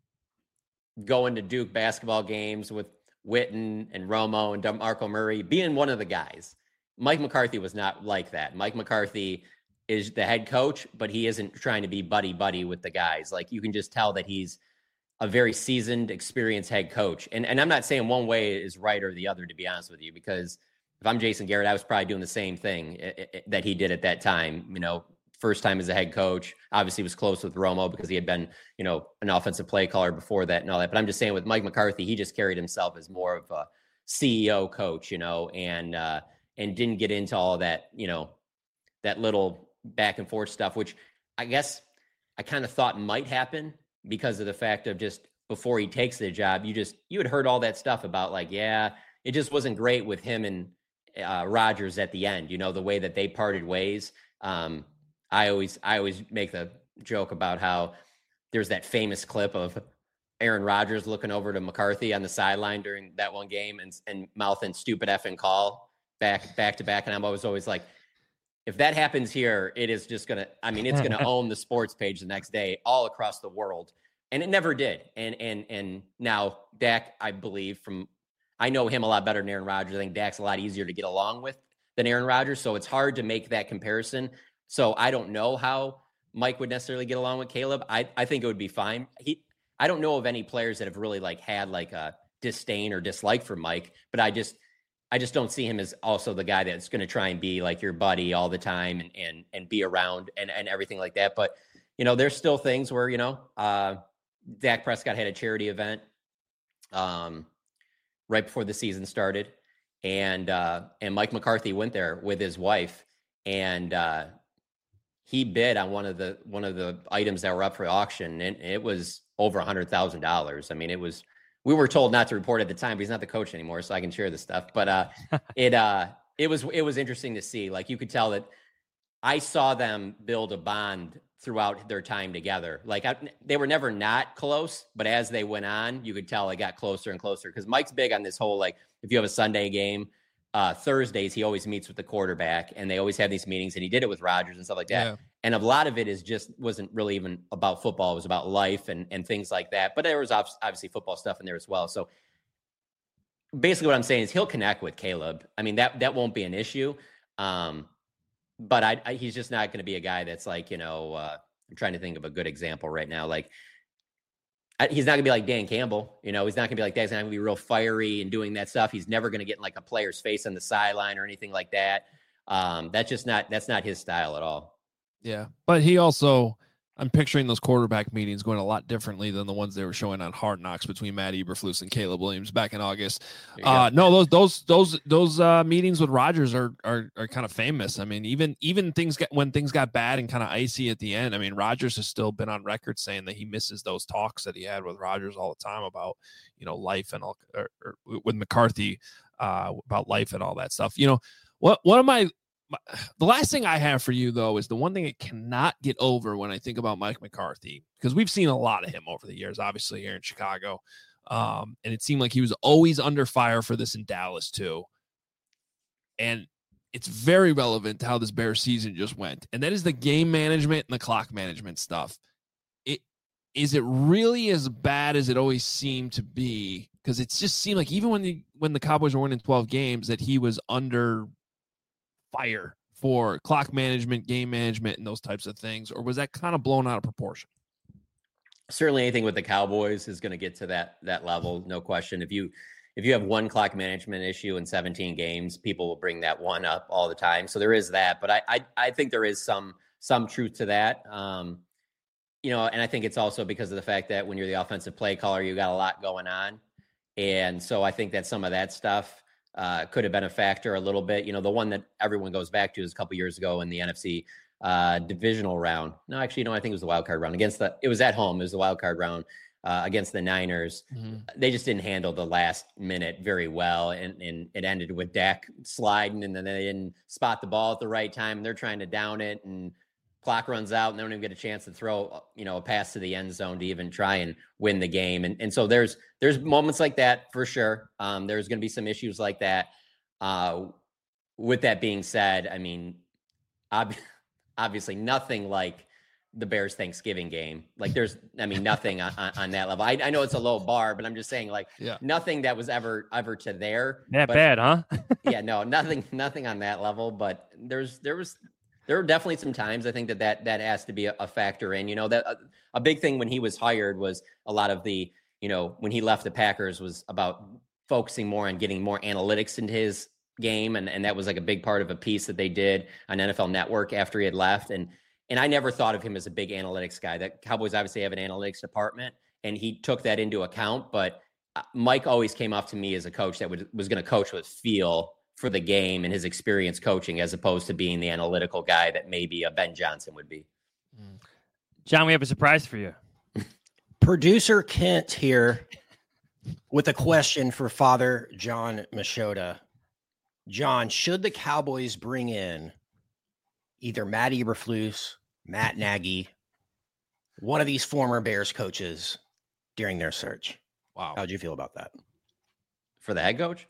going to Duke basketball games with Witten and Romo and DeMarco Murray, being one of the guys. Mike McCarthy was not like that. Mike McCarthy is the head coach, but he isn't trying to be buddy-buddy with the guys. Like you can just tell that he's a very seasoned, experienced head coach. And, and I'm not saying one way is right or the other, to be honest with you, because if I'm Jason Garrett, I was probably doing the same thing it, it, that he did at that time, you know, first time as a head coach. Obviously was close with Romo because he had been, you know, an offensive play caller before that and all that. But I'm just saying with Mike McCarthy, he just carried himself as more of a C E O coach, you know, and, uh, and didn't get into all of that, you know, that little back and forth stuff, which I guess I kind of thought might happen because of the fact of just before he takes the job, you just, you had heard all that stuff about like, yeah, it just wasn't great with him and uh, Rodgers at the end, you know, the way that they parted ways. Um, I always, I always make the joke about how there's that famous clip of Aaron Rodgers looking over to McCarthy on the sideline during that one game and, and mouthing stupid effing call back, back to back. And I'm always, always like, if that happens here, it is just going to, I mean, it's going to own the sports page the next day all across the world. And it never did. And, and, and now Dak, I believe from, I know him a lot better than Aaron Rodgers. I think Dak's a lot easier to get along with than Aaron Rodgers. So it's hard to make that comparison. So I don't know how Mike would necessarily get along with Caleb. I, I think it would be fine. He, I don't know of any players that have really like had like a disdain or dislike for Mike, but I just, I just don't see him as also the guy that's going to try and be like your buddy all the time and, and, and be around and, and everything like that. But, you know, there's still things where, you know, uh, Dak Prescott had a charity event um, right before the season started. And, uh, and Mike McCarthy went there with his wife. and uh, he bid on one of the one of the items that were up for auction, and it was over a hundred thousand dollars. I mean, it was. We were told not to report at the time, but he's not the coach anymore, so I can share this stuff. But uh, it uh, it was it was interesting to see. Like, you could tell that I saw them build a bond throughout their time together. Like, I, they were never not close, but as they went on, you could tell they got closer and closer. Because Mike's big on this whole, like, if you have a Sunday game, uh, Thursdays he always meets with the quarterback, and they always have these meetings. And he did it with Rodgers and stuff like that. Yeah. And a lot of it is just wasn't really even about football. It was about life and, and things like that. But there was obviously football stuff in there as well. So basically what I'm saying is he'll connect with Caleb. I mean, that that won't be an issue. Um, but I, I, he's just not going to be a guy that's like, you know, uh, I'm trying to think of a good example right now. Like, I, he's not going to be like Dan Campbell. You know, he's not going to be like that. He's not going to be real fiery and doing that stuff. He's never going to get in like a player's face on the sideline or anything like that. Um, that's just not, that's not his style at all. Yeah, but he also, I'm picturing those quarterback meetings going a lot differently than the ones they were showing on Hard Knocks between Matt Eberflus and Caleb Williams back in August. Uh, no, those those those those uh, meetings with Rodgers are are are kind of famous. I mean, even even things got when things got bad and kind of icy at the end. I mean, Rodgers has still been on record saying that he misses those talks that he had with Rodgers all the time about, you know, life and all, or, or with McCarthy uh, about life and all that stuff. You know, what one of my The last thing I have for you, though, is the one thing I cannot get over when I think about Mike McCarthy, because we've seen a lot of him over the years, obviously here in Chicago. Um, and it seemed like he was always under fire for this in Dallas, too. And it's very relevant to how this Bears season just went. And that is the game management and the clock management stuff. It is it really as bad as it always seemed to be? Because it just seemed like even when the when the Cowboys were winning twelve games, that he was under fire for clock management, game management, and those types of things, or was that kind of blown out of proportion? Certainly anything with the Cowboys is going to get to that that level, no question. If you if you have one clock management issue in seventeen games, people will bring that one up all the time. So there is that, but I I, I think there is some some truth to that. Um, you know, and I think it's also because of the fact that when you're the offensive play caller, you got a lot going on. And so I think that some of that stuff Uh, could have been a factor a little bit. You know, the one that everyone goes back to is a couple years ago in the N F C uh, divisional round. No, actually, no, I think it was the wild card round against the, it was at home. It was the wild card round uh, against the Niners. Mm-hmm. They just didn't handle the last minute very well. And, and it ended with Dak sliding, and then they didn't spot the ball at the right time. And they're trying to down it, and clock runs out, and they don't even get a chance to throw, you know, a pass to the end zone to even try and win the game. And and so there's there's moments like that for sure. Um, there's going to be some issues like that. Uh, with that being said, I mean, ob- obviously nothing like the Bears Thanksgiving game. Like there's, I mean, nothing on, on, on that level. I, I know it's a low bar, but I'm just saying, like, yeah. nothing that was ever ever to there. That but, bad, huh? yeah, no, nothing, nothing on that level. But there's there was. There were definitely some times I think that that, that has to be a, a factor in, you know, that a, a big thing when he was hired was a lot of the, you know, when he left the Packers was about focusing more on getting more analytics into his game. And, and that was like a big part of a piece that they did on N F L Network after he had left. And, and I never thought of him as a big analytics guy. That Cowboys obviously have an analytics department, and he took that into account. But Mike always came off to me as a coach that would, was going to coach with feel for the game and his experience coaching, as opposed to being the analytical guy that maybe a Ben Johnson would be. John, we have a surprise for you. Producer Kent here with a question for Father John Machota. John, should the Cowboys bring in either Matt Eberflus, Matt Nagy, one of these former Bears coaches during their search? Wow. How'd you feel about that? For the head coach?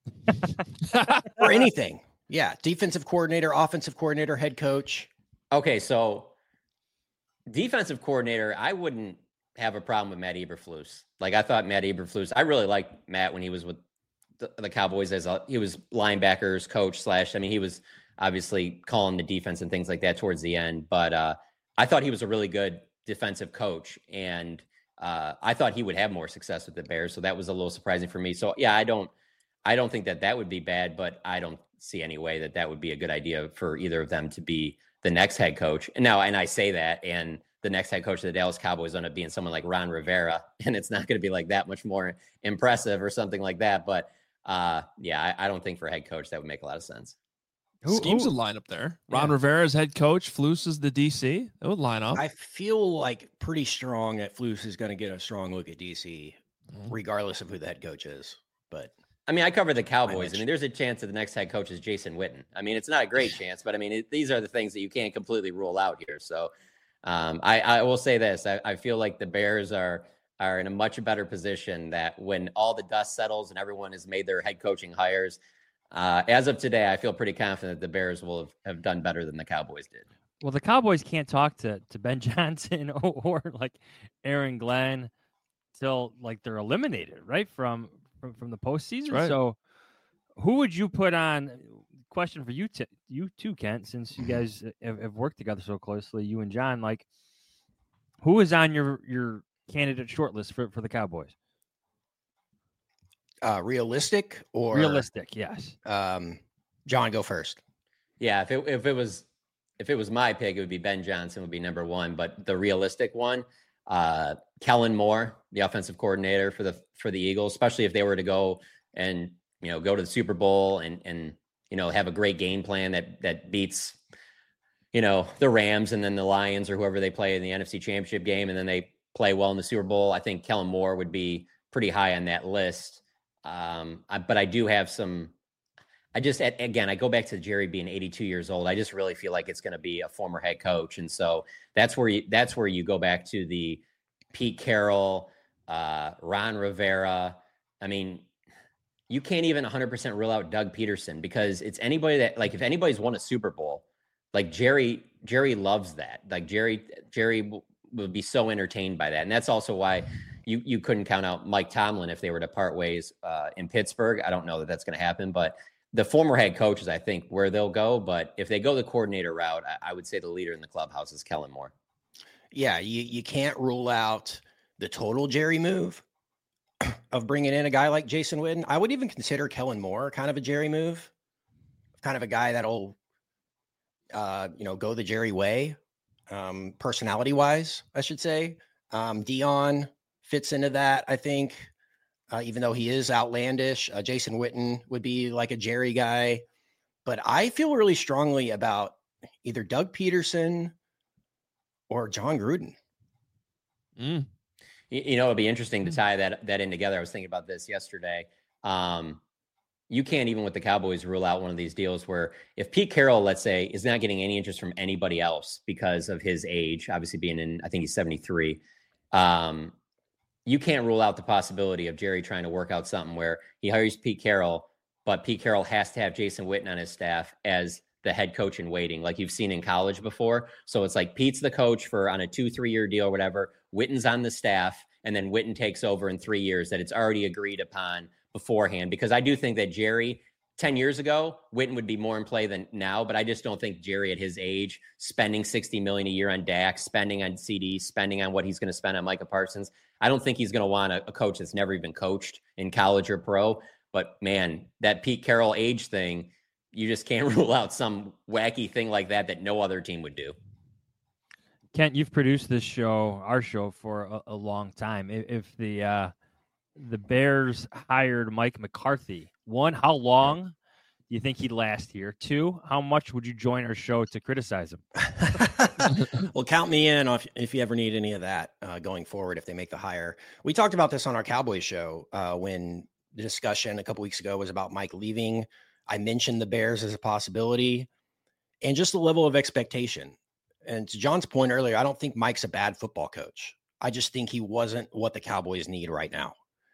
Or anything. Yeah. Defensive coordinator, offensive coordinator, head coach. Okay. So defensive coordinator, I wouldn't have a problem with Matt Eberflus. Like, I thought Matt Eberflus, I really liked Matt when he was with the, the Cowboys as a, he was linebackers coach slash, I mean, he was obviously calling the defense and things like that towards the end, but uh, I thought he was a really good defensive coach, and uh, I thought he would have more success with the Bears. So that was a little surprising for me. So yeah, I don't, I don't think that that would be bad, but I don't see any way that that would be a good idea for either of them to be the next head coach. And now, and I say that, and the next head coach of the Dallas Cowboys ended up being someone like Ron Rivera, and it's not going to be like that much more impressive or something like that. But uh, yeah, I, I don't think for a head coach that would make a lot of sense. Who, Schemes who? would line up there. Ron Yeah. Rivera's head coach. Flus is the D C. It would line up. I feel like pretty strong that Flus is going to get a strong look at D C, mm-hmm. regardless of who the head coach is. But I mean, I cover the Cowboys. I mean, there's a chance that the next head coach is Jason Witten. I mean, it's not a great chance, but I mean, it, these are the things that you can't completely rule out here. So um, I, I will say this. I, I feel like the Bears are are in a much better position that when all the dust settles and everyone has made their head coaching hires, uh, as of today, I feel pretty confident that the Bears will have, have done better than the Cowboys did. Well, the Cowboys can't talk to, to Ben Johnson or, or like Aaron Glenn till like they're eliminated, right, from from, from the postseason. Right. So who would you put on? Question for you, t- you too, Kent, since you guys have, have worked together so closely, you and John, like who is on your, your candidate shortlist for, for the Cowboys? Uh, realistic or realistic? Yes. Um, John, go first. Yeah. If it, if it was, if it was my pick, it would be Ben Johnson would be number one, but the realistic one, uh, Kellen Moore, the offensive coordinator for the, for the Eagles, especially if they were to go and, you know, go to the Super Bowl and, and, you know, have a great game plan that, that beats, you know, the Rams and then the Lions or whoever they play in the N F C Championship game. And then they play well in the Super Bowl. I think Kellen Moore would be pretty high on that list. Um, I, but I do have some, I just, again, I go back to Jerry being eighty-two years old. I just really feel like it's going to be a former head coach. And so that's where you, that's where you go back to the Pete Carroll, uh, Ron Rivera. I mean, you can't even one hundred percent rule out Doug Peterson because it's anybody that, like, if anybody's won a Super Bowl, like Jerry, Jerry loves that. Like Jerry, Jerry w- would be so entertained by that. And that's also why you, you couldn't count out Mike Tomlin if they were to part ways uh, in Pittsburgh. I don't know that that's going to happen, but the former head coach is, I think, where they'll go. But if they go the coordinator route, I, I would say the leader in the clubhouse is Kellen Moore. Yeah, you, you can't rule out the total Jerry move of bringing in a guy like Jason Witten. I would even consider Kellen Moore kind of a Jerry move, kind of a guy that'll, uh, you know, go the Jerry way, um, personality wise, I should say. Um, Dion fits into that, I think, uh, even though he is outlandish. Uh, Jason Witten would be like a Jerry guy, but I feel really strongly about either Doug Peterson or John Gruden. Mm. You know, it'd be interesting to tie that that in together. I was thinking about this yesterday. Um, you can't even with the Cowboys rule out one of these deals where if Pete Carroll, let's say, is not getting any interest from anybody else because of his age, obviously being in, I think he's seventy-three. Um, you can't rule out the possibility of Jerry trying to work out something where he hires Pete Carroll, but Pete Carroll has to have Jason Witten on his staff as the head coach in waiting, like you've seen in college before. So it's like Pete's the coach for on a two, three year deal or whatever. Witten's on the staff, and then Witten takes over in three years that it's already agreed upon beforehand. Because I do think that Jerry, ten years ago, Witten would be more in play than now, but I just don't think Jerry at his age, spending sixty million dollars a year on Dak, spending on C D, spending on what he's going to spend on Micah Parsons, I don't think he's going to want a, a coach that's never even coached in college or pro. But man, that Pete Carroll age thing, you just can't rule out some wacky thing like that that no other team would do. Kent, you've produced this show, our show, for a, a long time. If, if the uh, the Bears hired Mike McCarthy, one, how long do you think he'd last here? Two, how much would you join our show to criticize him? Well, count me in if, if you ever need any of that uh, going forward, if they make the hire. We talked about this on our Cowboys show uh, when the discussion a couple weeks ago was about Mike leaving. I mentioned the Bears as a possibility and just the level of expectation. And to John's point earlier, I don't think Mike's a bad football coach. I just think he wasn't what the Cowboys need right now.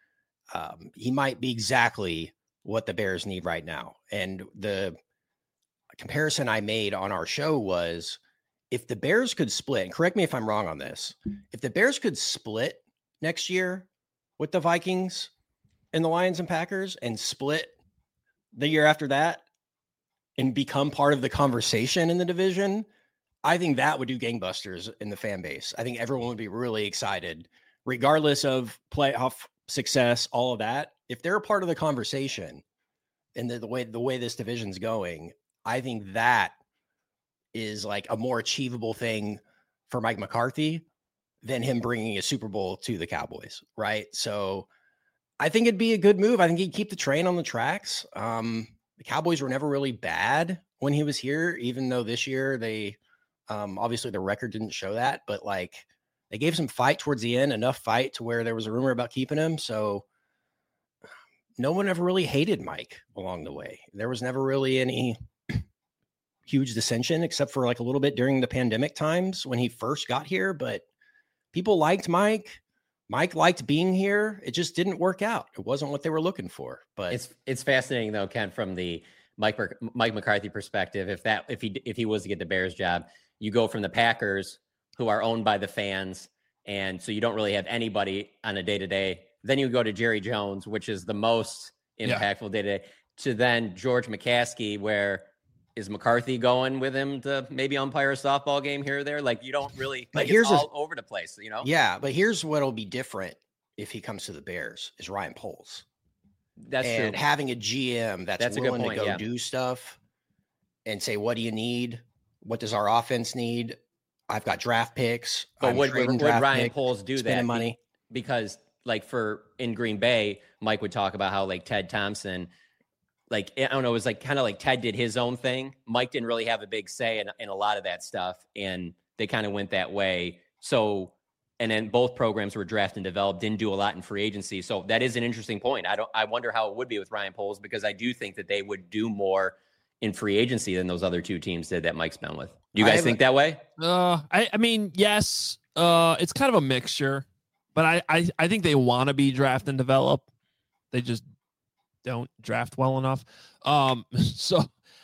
Um, he might be exactly what the Bears need right now. And the comparison I made on our show was if the Bears could split, and correct me if I'm wrong on this, if the Bears could split next year with the Vikings and the Lions and Packers and split the year after that and become part of the conversation in the division, I think that would do gangbusters in the fan base. I think everyone would be really excited, regardless of playoff success, all of that. If they're a part of the conversation and the, the way the way this division's going, I think that is like a more achievable thing for Mike McCarthy than him bringing a Super Bowl to the Cowboys, right? So I think it'd be a good move. I think he'd keep the train on the tracks. Um, the Cowboys were never really bad when he was here, even though this year they um, obviously the record didn't show that, but like they gave some fight towards the end, enough fight to where there was a rumor about keeping him. So no one ever really hated Mike along the way. There was never really any huge dissension except for like a little bit during the pandemic times when he first got here, but people liked Mike. Mike liked being here. It just didn't work out. It wasn't what they were looking for. But it's it's fascinating though, Ken, from the Mike Mike McCarthy perspective. If that if he if he was to get the Bears job, you go from the Packers, who are owned by the fans, and so you don't really have anybody on a day to day. Then you go to Jerry Jones, which is the most impactful day to day, to then George McCaskey, where is McCarthy going with him to maybe umpire a softball game here or there? Like you don't really, but like here's it's all a, over the place, you know? Yeah, but here's what'll be different if he comes to the Bears is Ryan Poles. That's and true. having a G M that's, that's willing point, to go yeah. do stuff and say, what do you need? What does our offense need? I've got draft picks. But I'm would, would, would Ryan picks, Poles do that? Money. Because like for in Green Bay, Mike would talk about how like Ted Thompson, like, I don't know, it was like kind of like Ted did his own thing. Mike didn't really have a big say in, in a lot of that stuff. And they kind of went that way. So, and then both programs were drafted and developed, didn't do a lot in free agency. So that is an interesting point. I don't, I wonder how it would be with Ryan Poles, because I do think that they would do more in free agency than those other two teams did that Mike's been with. Do you guys think that way? Uh, I, I mean, yes, uh, it's kind of a mixture, but I, I, I think they want to be draft and develop. They just don't draft well enough. Um, so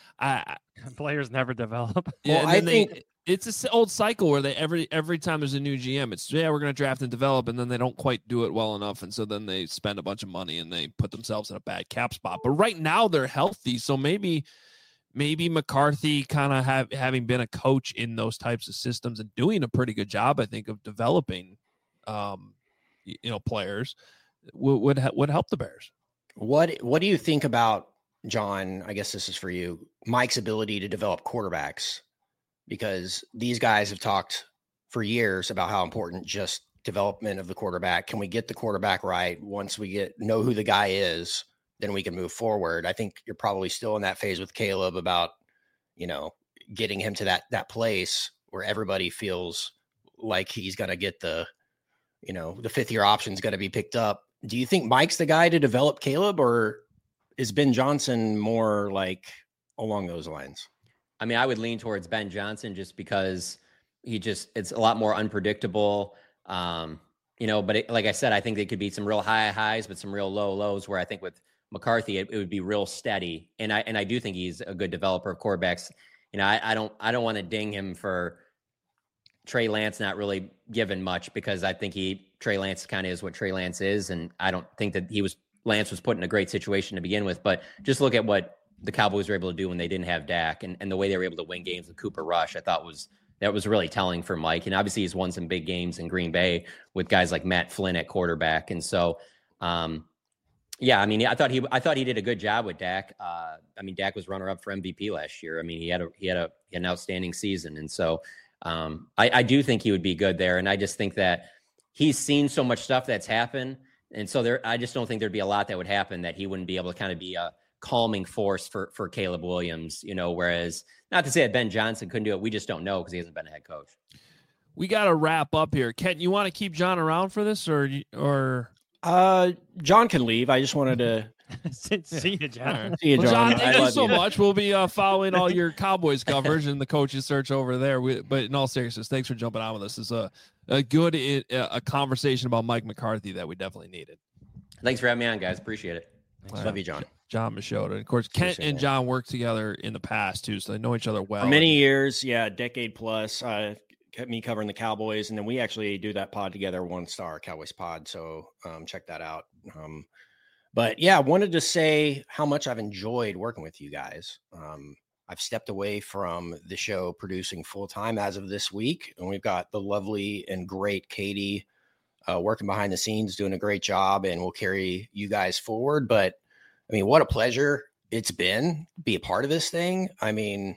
I players never develop. Yeah, well, I they, think it's an old cycle where they every every time there's a new G M, it's yeah, we're gonna draft and develop, and then they don't quite do it well enough, and so then they spend a bunch of money and they put themselves in a bad cap spot. But right now they're healthy, so maybe maybe McCarthy kind of have having been a coach in those types of systems and doing a pretty good job, I think, of developing, um, you know, players would would, would help the Bears. What what do you think about, John? I guess this is for you, Mike's ability to develop quarterbacks, because these guys have talked for years about how important just development of the quarterback. Can we get the quarterback right? Once we get know who the guy is, then we can move forward. I think you're probably still in that phase with Caleb about, you know, getting him to that that place where everybody feels like he's going to get the, you know, the fifth year option is going to be picked up. Do you think Mike's the guy to develop Caleb, or is Ben Johnson more like along those lines? I mean, I would lean towards Ben Johnson just because he just, it's a lot more unpredictable. Um, you know, but it, like I said, I think they could be some real high highs, but some real low lows, where I think with McCarthy, it, it would be real steady. And I, and I do think he's a good developer of quarterbacks. You know, I, I don't, I don't want to ding him for Trey Lance not really given much, because I think he, Trey Lance kind of is what Trey Lance is. And I don't think that he was, Lance was put in a great situation to begin with, but just look at what the Cowboys were able to do when they didn't have Dak, and, and the way they were able to win games with Cooper Rush, I thought was, that was really telling for Mike. And obviously he's won some big games in Green Bay with guys like Matt Flynn at quarterback. And so, um, yeah, I mean, I thought he, I thought he did a good job with Dak. Uh, I mean, Dak was runner up for M V P last year. I mean, he had a, he had a, he had an outstanding season. And so, um, I, I do think he would be good there. And I just think that he's seen so much stuff that's happened. And so there, I just don't think there'd be a lot that would happen that he wouldn't be able to kind of be a calming force for, for Caleb Williams, you know, whereas not to say that Ben Johnson couldn't do it. We just don't know, because he hasn't been a head coach. We got to wrap up here. Kent, you want to keep John around for this, or, or uh, John can leave. I just wanted to see you, John. See you, John. Well, John, I thank you love so you. much. We'll be uh, following all your Cowboys coverage and the coaches search over there. We, but in all seriousness, thanks for jumping on with us. It's a, a good a conversation about Mike McCarthy that we definitely needed. Thanks for having me on, guys. Appreciate it. Love right. you, John. John Machota. And of course, Kent Appreciate and John worked together in the past too, so they know each other well. For many years, yeah, a decade plus. Uh, kept me covering the Cowboys, and then we actually do that pod together, One Star Cowboys Pod. So um, check that out. Um, but yeah, I wanted to say how much I've enjoyed working with you guys. Um, I've stepped away from the show producing full time as of this week, and we've got the lovely and great Katie uh, working behind the scenes, doing a great job, and we'll carry you guys forward. But I mean, what a pleasure it's been to be a part of this thing. I mean,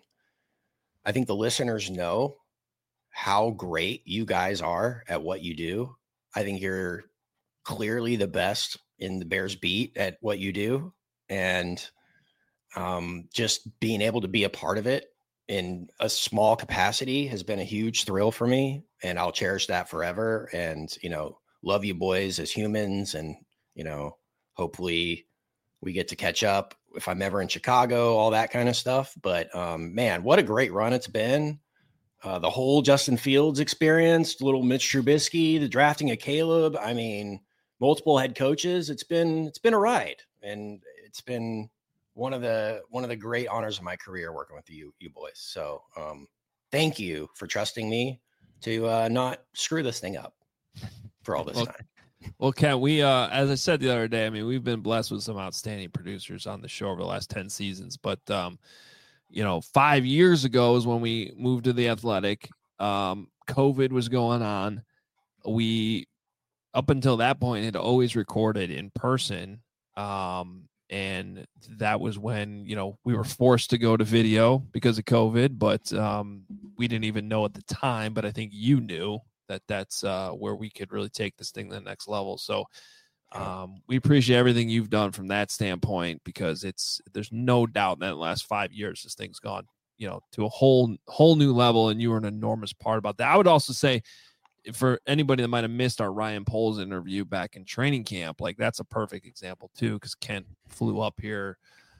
I think the listeners know how great you guys are at what you do. I think you're clearly the best in the Bears beat at what you do. And um, just being able to be a part of it in a small capacity has been a huge thrill for me, and I'll cherish that forever. And, you know, love you boys as humans. And, you know, hopefully we get to catch up if I'm ever in Chicago, all that kind of stuff. But um, man, what a great run it's been. Uh, the whole Justin Fields experience, little Mitch Trubisky, the drafting of Caleb. I mean, multiple head coaches. It's been, it's been a ride, and it's been one of the, one of the great honors of my career working with you, you boys. So um, thank you for trusting me to uh, not screw this thing up for all this well, time. Well, Ken, we, uh, as I said the other day, I mean, we've been blessed with some outstanding producers on the show over the last ten seasons, but, um, you know, five years ago is when we moved to the Athletic. Um, COVID was going on. We, up until that point, had always recorded in person. Um, and that was when, you know, we were forced to go to video because of COVID, but um, we didn't even know at the time, but I think you knew that that's uh, where we could really take this thing to the next level. So um, we appreciate everything you've done from that standpoint, because it's, there's no doubt that in the last five years, this thing's gone, you know, to a whole, whole new level. And you were an enormous part about that. I would also say, for anybody that might've missed our Ryan Poles interview back in training camp, like that's a perfect example too, because Kent flew up here,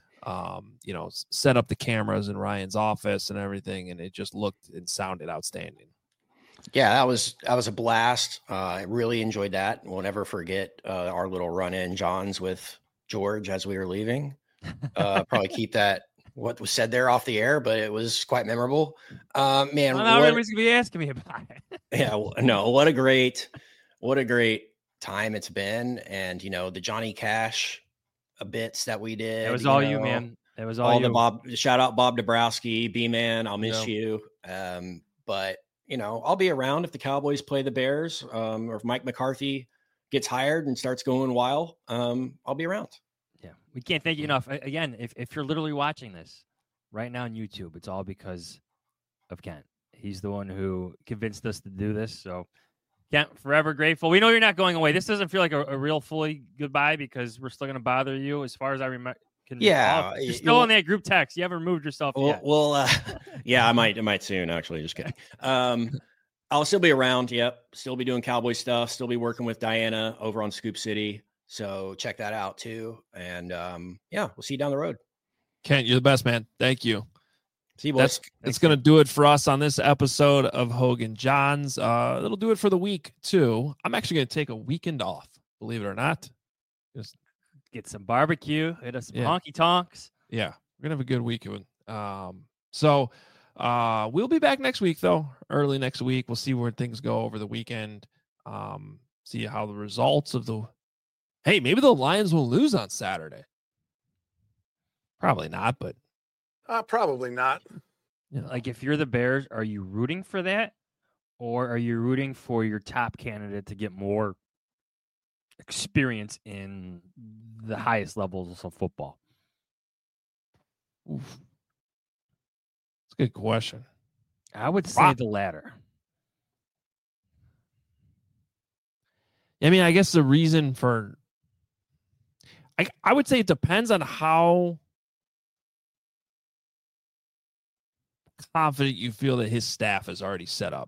um, you know, set up the cameras in Ryan's office and everything, and it just looked and sounded outstanding. Yeah, that was that was a blast. Uh, I really enjoyed that. We'll never forget uh, our little run-in Johns with George as we were leaving. Uh, probably keep that what was said there off the air, but it was quite memorable. Uh, man, well, now what, everybody's gonna be asking me about it. yeah, no, what a great, what a great time it's been, and you know the Johnny Cash bits that we did. It was you all know, you, man. It was all, all you. the Bob. Shout out Bob Dabrowski, B man. I'll miss Yeah. you. Um, but you know, I'll be around if the Cowboys play the Bears, um, or if Mike McCarthy gets hired and starts going wild. Um, I'll be around. Yeah, we can't thank you enough. Again, if, if you're literally watching this right now on YouTube, it's all because of Kent. He's the one who convinced us to do this. So, Kent, forever grateful. We know you're not going away. This doesn't feel like a, a real fully goodbye, because we're still going to bother you. As far as I remember, can Yeah, recall. You're it- still well- in that group text. You haven't removed yourself Well, yet. well uh, yeah, I might, I might soon. Actually, just kidding. Um, I'll still be around. Yep, still be doing Cowboy stuff. Still be working with Diana over on Scoop City. So check that out too. And um, yeah, we'll see you down the road. Kent, you're the best, man. Thank you. See you, boys. That's that's going to do it for us on this episode of Hogan Johns. Uh, it'll do it for the week too. I'm actually going to take a weekend off, believe it or not. Just Get some barbecue. Hit us some Yeah. honky tonks. yeah, we're gonna have a good weekend. Um, so uh, we'll be back next week though, early next week. We'll see where things go over the weekend. Um, see how the results of the. Hey, maybe the Lions will lose on Saturday. Probably not, but Uh, probably not. you know, Like, if you're the Bears, are you rooting for that? Or are you rooting for your top candidate to get more experience in the highest levels of football? oof. It's a good question. I would say Wow. the latter. I mean, I guess the reason for, I I would say it depends on how confident you feel that his staff is already set up.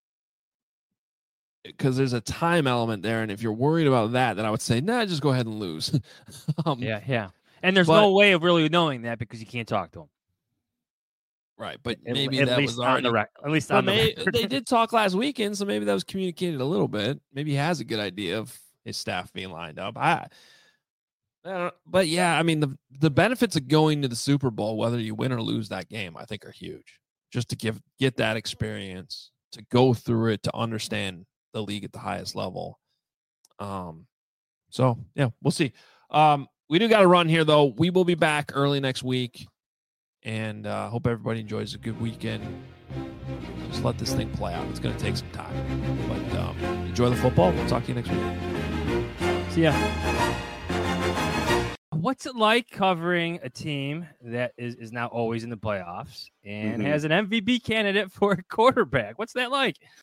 Because there's a time element there, and if you're worried about that, then I would say, nah, just go ahead and lose. um, Yeah, yeah. And there's but- no way of really knowing that because you can't talk to him. right. But At- maybe at that least was on already. the rec- At least Well, on the may- record. they did talk last weekend, so maybe that was communicated a little bit. Maybe he has a good idea of his staff being lined up. I, I don't, but yeah, I mean the the benefits of going to the Super Bowl, whether you win or lose that game, I think are huge. Just to give get that experience, to go through it, to understand the league at the highest level. Um, so yeah, we'll see. Um, we do got to run here though. We will be back early next week, and uh, hope everybody enjoys a good weekend. Just let this thing play out. It's going to take some time, but um, enjoy the football. We'll talk to you next week. See ya. What's it like covering a team that is, is now always in the playoffs and Mhm. has an M V P candidate for a quarterback? What's that like?